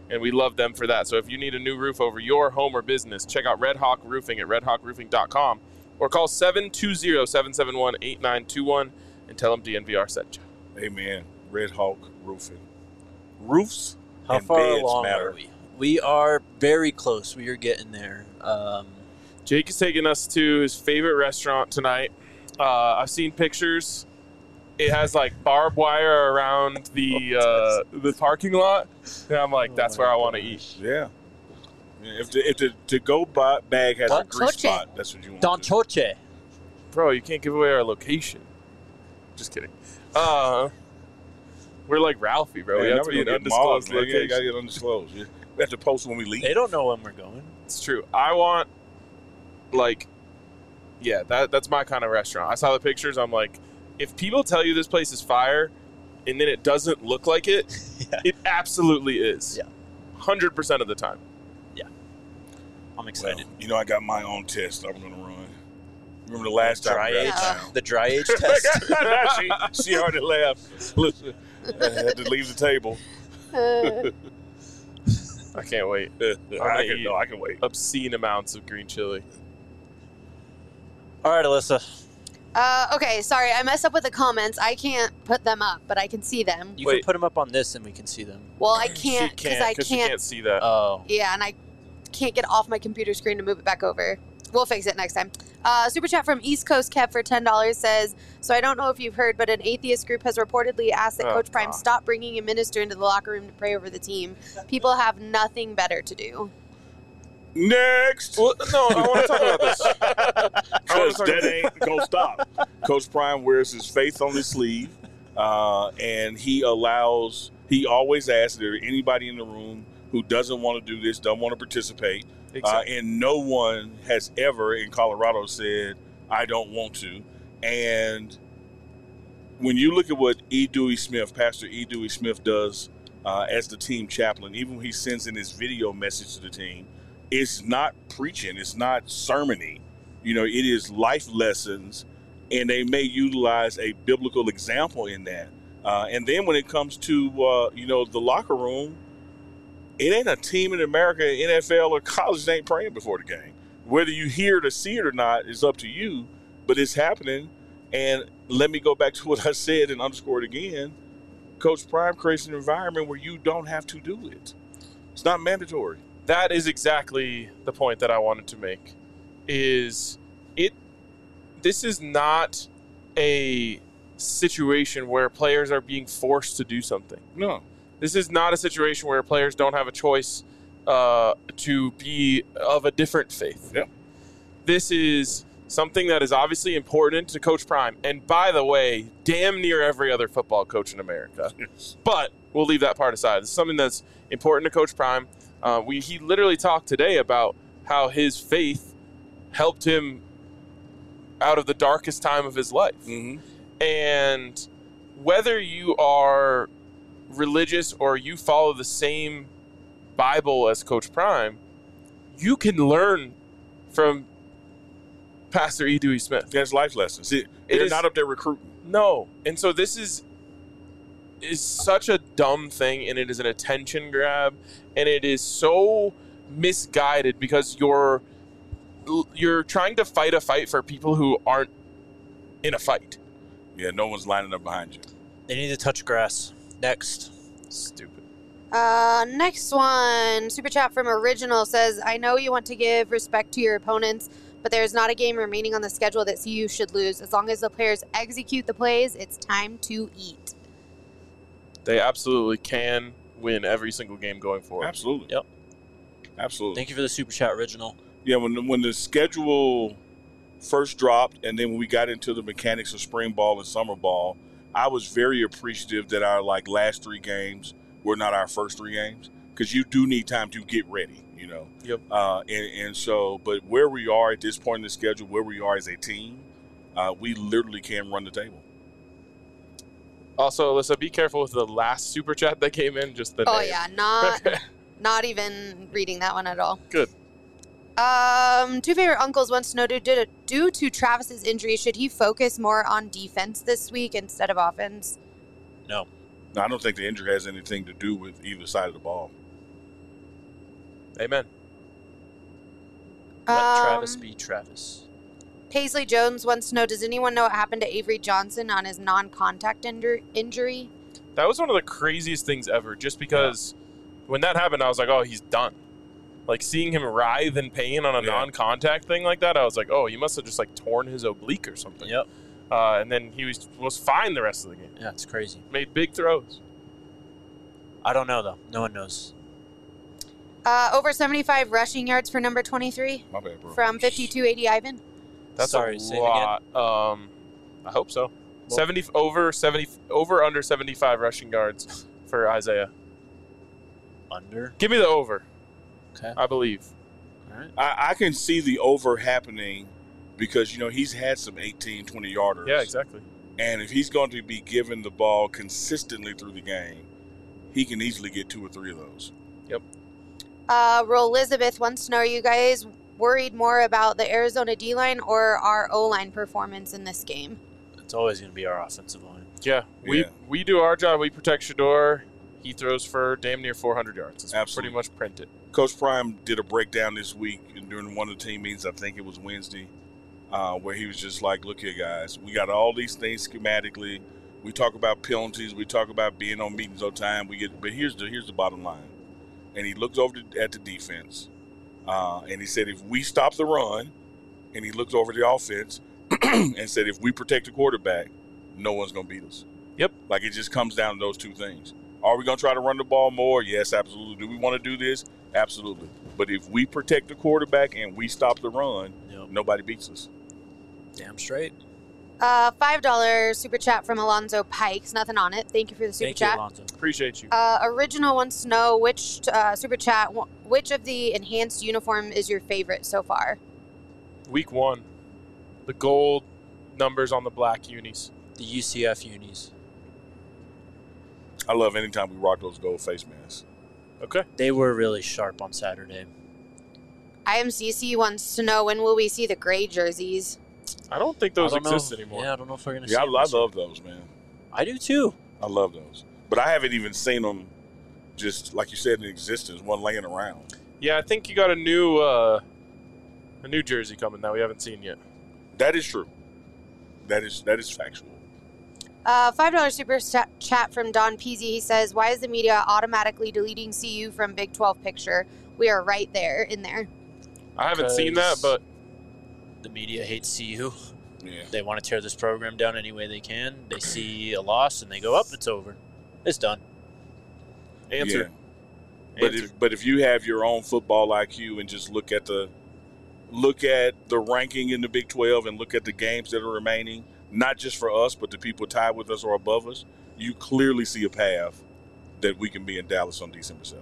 and we love them for that. So if you need a new roof over your home or business, check out Red Hawk Roofing at red hawk roofing dot com or call seven two zero, seven seven one, eight nine two one and tell them D N V R sent you. Amen. Red Hawk Roofing. Roofs How and far beds along matter. are we? We are very close. We are getting there. Um, Jake is taking us to his favorite restaurant tonight. Uh, I've seen pictures. It has like barbed wire around the uh, the parking lot, and I'm like, Oh that's my where I want to gosh. eat. Yeah. Yeah, If the if the to go ba- bag has a Don grease Choche. spot, that's what you want. Don to do. Choche. Bro, you can't give away our location. Just kidding. Uh, we're like Ralphie, bro. we Man, have to now be we an gonna get mauled, undisclosed man. Yeah, you location. gotta get undisclosed. Yeah. We have to post when we leave. They don't know when we're going. It's true. I want, like, yeah, that that's my kind of restaurant. I saw the pictures. I'm like, if people tell you this place is fire, and then it doesn't look like it, Yeah. it absolutely is. Yeah. one hundred percent of the time. I'm excited. Well, you know, I got my own test I'm gonna run. Remember the last time Dry we age. got out of town? The dry age test. she, she already left. Listen, I had to leave the table. Uh, I can't wait. I can, no, I can wait. Obscene amounts of green chili. All right, Alyssa. uh, okay, sorry, I messed up with the comments. I can't put them up, but I can see them. You Wait. can put them up on this and we can see them. Well, I She can't because I because she can't. can't see that. Oh. Yeah, and I can't get off my computer screen to move it back over. We'll fix it next time. Uh, super chat from East Coast Kev for ten dollars says, so I don't know if you've heard, but an atheist group has reportedly asked that Oh, Coach Prime God. stop bringing a minister into the locker room to pray over the team. People have nothing better to do. Next. Well, no, I want to talk about this. I wanna Because talk that about- ain't gonna stop. Coach Prime wears his faith on his sleeve, uh, and he allows. He always asks, "Is there anybody in the room who doesn't want to do this, doesn't want to participate?" Uh, Exactly. and no one has ever in Colorado said, "I don't want to." And when you look at what E. Dewey Smith, Pastor E. Dewey Smith, does uh, as the team chaplain, even when he sends in his video message to the team, it's not preaching, it's not sermoning. You know, it is life lessons, and they may utilize a biblical example in that. Uh, and then when it comes to uh, you know the locker room, it ain't a team in America, N F L or college that ain't praying before the game. Whether you hear it or see it or not is up to you, but it's happening. And let me go back to what I said and underscore it again. Coach Prime creates an environment where you don't have to do it. It's not mandatory. That is exactly the point that I wanted to make. Is it? This is not a situation where players are being forced to do something. No. This is not a situation where players don't have a choice uh, to be of a different faith. Yep. This is something that is obviously important to Coach Prime. And by the way, damn near every other football coach in America. But we'll leave that part aside. This is something that's important to Coach Prime. Uh, we he literally talked today about how his faith helped him out of the darkest time of his life. Mm-hmm. And whether you are religious or you follow the same Bible as Coach Prime, you can learn from Pastor E. Dewey Smith. That's life lessons. See, they're is- not up there recruiting. No. And so this is is such a dumb thing, and it is an attention grab, and it is so misguided because you're you're trying to fight a fight for people who aren't in a fight. Yeah, no one's lining up behind you. They need to touch grass. Next. Stupid. Uh, next one, super chat from Original says, I know you want to give respect to your opponents, but there's not a game remaining on the schedule that C U should lose. As long as the players execute the plays, it's time to eat. They absolutely can win every single game going forward. Absolutely. Yep. Absolutely. Thank you for the super chat, Original. Yeah, when the, when the schedule first dropped, and then when we got into the mechanics of spring ball and summer ball, I was very appreciative that our like last three games were not our first three games, because you do need time to get ready, you know. Yep. Uh, and, and so, but where we are at this point in the schedule, where we are as a team, uh, we literally can run the table. Also, Alyssa, be careful with the last super chat that came in. Just the Oh, name. yeah, not not even reading that one at all. Good. Um, two favorite uncles wants to know, due to, due to Travis's injury, should he focus more on defense this week instead of offense? No. Now, I don't think the injury has anything to do with either side of the ball. Amen. Let Um, Travis be Travis. Paisley Jones wants to know, does anyone know what happened to Avery Johnson on his non-contact injur- injury? That was one of the craziest things ever, just because when that happened, I was like, oh, he's done. Like, seeing him writhe in pain on a Yeah. non-contact thing like that, I was like, oh, he must have just, like, torn his oblique or something. Yep. Uh, and then he was was fine the rest of the game. Yeah, it's crazy. Made big throws. I don't know, though. No one knows. Uh, over seventy-five rushing yards for number twenty-three My bad, bro. from fifty-two eighty Ivan. That's Sorry, a say it again. lot. Um, I hope so. Well- seventy over seventy over under seventy-five rushing yards for Isaiah. Under. Give me the over. Okay. I believe. All right. I, I can see the over happening because, you know, he's had some eighteen, twenty-yarders. Yeah, exactly. And if he's going to be given the ball consistently through the game, he can easily get two or three of those. Uh, Roll Elizabeth wants to know, are you guys worried more about the Arizona D-line or our O-line performance in this game? It's always going to be our offensive line. Yeah, we Yeah. we do our job. We protect Shador. He throws for damn near four hundred yards. It's Absolutely. pretty much printed. Coach Prime did a breakdown this week and during one of the team meetings. I think it was Wednesday, uh, where he was just like, "Look here, guys. We got all these things schematically. We talk about penalties. We talk about being on meetings on time. We get, but here's the here's the bottom line." And he looked over to, at the defense, uh, and he said, "If we stop the run," and he looked over the offense and said, "If we protect the quarterback, no one's gonna beat us." Yep. Like it just comes down to those two things. Are we going to try to run the ball more? Yes, absolutely. Do we want to do this? Absolutely. But if we protect the quarterback and we stop the run, Yep. nobody beats us. Damn straight. Uh, five dollars super chat from Alonzo Pikes. Nothing on it. Thank you for the super Thank you, chat. Alonzo. Appreciate you. Uh, Original wants to know which uh, super chat, wh- which of the enhanced uniform is your favorite so far? Week one, the gold numbers on the black unis. The U C F unis. I love anytime we rock those gold face masks. Okay. They were really sharp on Saturday. I M C C wants to know, when will we see the gray jerseys? I don't think those I don't exist know. anymore. Yeah, I don't know if we're gonna. Yeah, I, see them I this year. love those, man. I do too. I love those. But I haven't even seen them, just like you said, in existence, one laying around. Yeah, I think you got a new uh, a new jersey coming that we haven't seen yet. That is true. That is that is factual. Uh, five dollars super sta- chat from Don Peasy. He says, why is the media automatically deleting C U from Big twelve picture? We are right there in there. I haven't seen that, Because- but The media hates C U. Yeah. They want to tear this program down any way they can. They see a loss and they go, up, it's over. It's done. answer. Yeah. But Answer. if but if you have your own football I Q and just look at the look at the ranking in the Big twelve and look at the games that are remaining, not just for us, but the people tied with us or above us, you clearly see a path that we can be in Dallas on December seventh.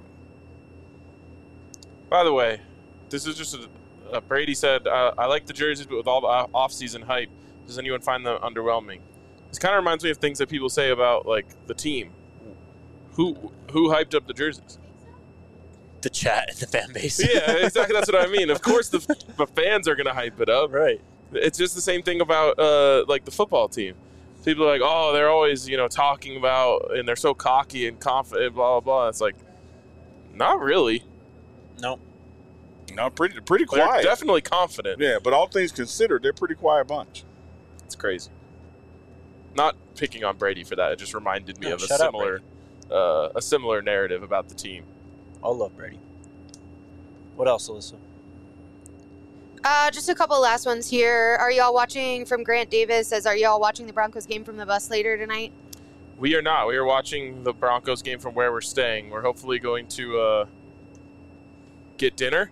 By the way, this is just a, uh, Brady said, uh, I like the jerseys, but with all the uh, off-season hype, does anyone find them underwhelming? This kind of reminds me of things that people say about like the team. Who who hyped up the jerseys? The chat and the fan base. Yeah, exactly. That's what I mean. Of course, the, the fans are going to hype it up. Right. It's just the same thing about uh, like the football team. People are like, oh, they're always you know talking about, and they're so cocky and confident, blah blah blah. It's like, not really. No. No, pretty pretty They're quiet. definitely confident. Yeah, but all things considered, they're a pretty quiet bunch. It's crazy. Not picking on Brady for that. It just reminded me No, of a shut up, similar, uh, a similar narrative about the team. All love Brady. What else, Alyssa? Uh, just a couple last ones here. Are y'all watching, from Grant Davis, says, are y'all watching the Broncos game from the bus later tonight? We are not. We are watching the Broncos game from where we're staying. We're hopefully going to uh, get dinner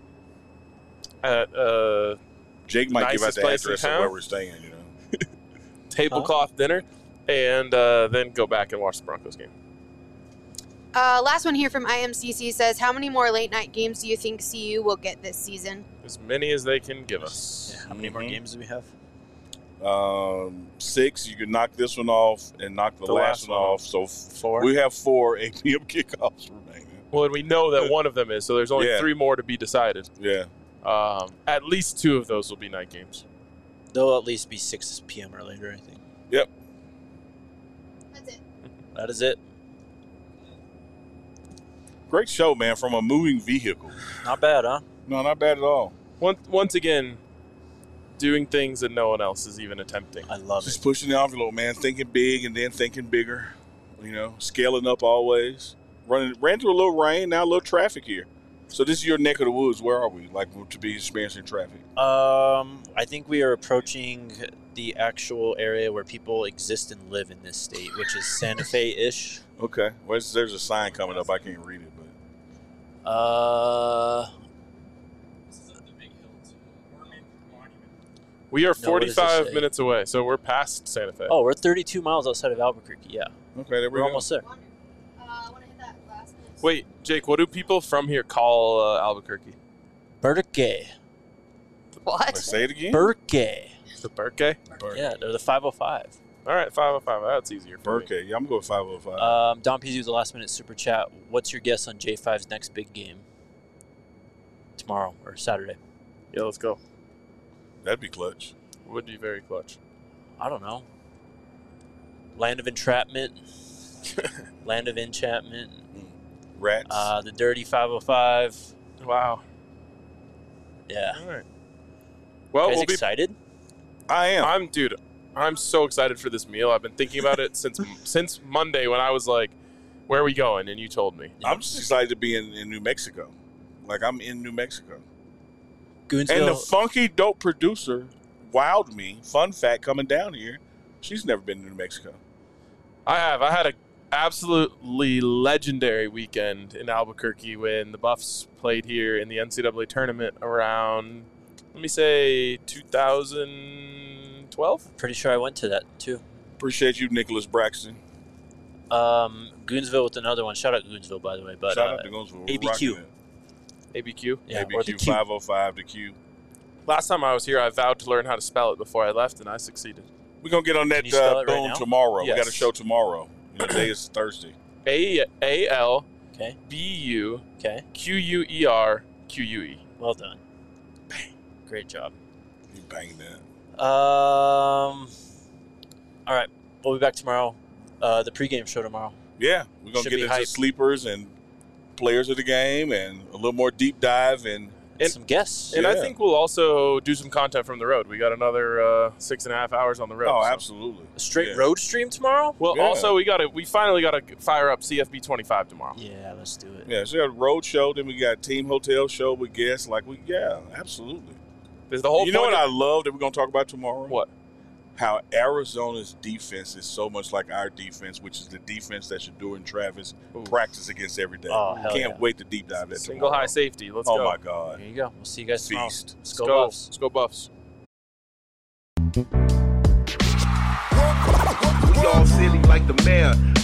at uh, Jake might give out Nicest the place in address of town? where we're staying, you know. tablecloth dinner, and uh, then go back and watch the Broncos game. Uh, last one here from I M C C says, how many more late night games do you think C U will get this season? As many as they can give us. Yeah, how many more Mhm. games do we have? Um, six, you can knock this one off and knock the, The last, last one one off. So f- Four. we have four eight p.m. kickoffs remaining. Well, and we know that one of them is, so there's only Yeah. three more to be decided. Yeah. Um, at least two of those will be night games. They'll at least be six p.m. or later, I think. Yep. That's it. That is it. Great show, man, from a moving vehicle. Not bad, huh? No, not bad at all. Once, once again, doing things that no one else is even attempting. I love Just it. pushing the envelope, man. Thinking big and then thinking bigger. You know, scaling up always. Running, ran through a little rain, now a little traffic here. So this is your neck of the woods. Where are we? Like to be experiencing traffic? Um, I think we are approaching the actual area where people exist and live in this state, which is Santa Fe-ish. Okay. Well, there's- there's a sign coming up. I can't read it, but Uh, We are No, what does it forty-five say? minutes away, so we're past Santa Fe. oh, we're thirty-two miles outside of Albuquerque. Yeah, okay, there we we're go. almost there. Uh, I want to hit that last minute. Wait, Jake, what do people from here call uh, Albuquerque? Burke. What? Let's say it again. Burke. The Burke? Yeah, they're the five oh five. All right, five oh five. That's easier for me. Burke. Yeah, I'm going with five oh five. Um, Don Pizzi with the last minute super chat. What's your guess on J five's next big game? Tomorrow or Saturday? Yeah, let's go. That'd be clutch. Would be very clutch. I don't know. Land of Entrapment. Land of Enchantment. Rats. Uh, the Dirty five oh five. Wow. Yeah. All right. Well, You guys we'll be. excited? I am. I'm, dude. I'm so excited for this meal. I've been thinking about it since since Monday when I was like, "Where are we going?" and you told me. I'm just excited to be in, in New Mexico. Like, I'm in New Mexico. Goonsville. And the funky dope producer wowed me. Fun fact, coming down here, she's never been to New Mexico. I have. I had a absolutely legendary weekend in Albuquerque when the Buffs played here in the N C double A tournament around, let me say, two thousand twelve. Pretty sure I went to that too. Appreciate you, Nicholas Braxton. Um, Goonsville with another one. Shout out Goonsville, by the way. But Shout uh, out to Goonsville. A B Q. A B Q. yeah, A B or the Q Q. five oh five, the Q. Last time I was here, I vowed to learn how to spell it before I left, and I succeeded. We're going to get on Can that you spell uh, it right boom now? tomorrow. Yes. We got a show tomorrow. You know, today is Thursday. A A L Okay. B U Okay. Q U E R Q U E. Well done. Bang. Great job. You banged that. Um. All right. We'll be back tomorrow. Uh, the pregame show tomorrow. Yeah, we're going to Should get be into hype. sleepers and players of the game and a little more deep dive. And And, And- some guests. And I Yeah. think we'll also do some content from the road. We got another uh, six and a half hours on the road. oh, so- absolutely. A straight Yeah. road stream tomorrow. Well, Yeah. also we got to we finally got to fire up C F B twenty-five tomorrow. Yeah, let's do it. Yeah, so we got a road show, then we got team hotel show with guests. Like, we, yeah, absolutely. There's the whole. You know what point I of- love that we're going to talk about tomorrow? What? How Arizona's defense is so much like our defense, which is the defense that Shador and Travis Ooh. practice against every day. Oh, hell Can't yeah. wait to deep dive that Single tomorrow. high safety. Let's oh, go. my God. There you go. We'll see you guys tomorrow. Feast. Let's Let's go, go. Buffs. Let's go Buffs. We all silly like the mayor.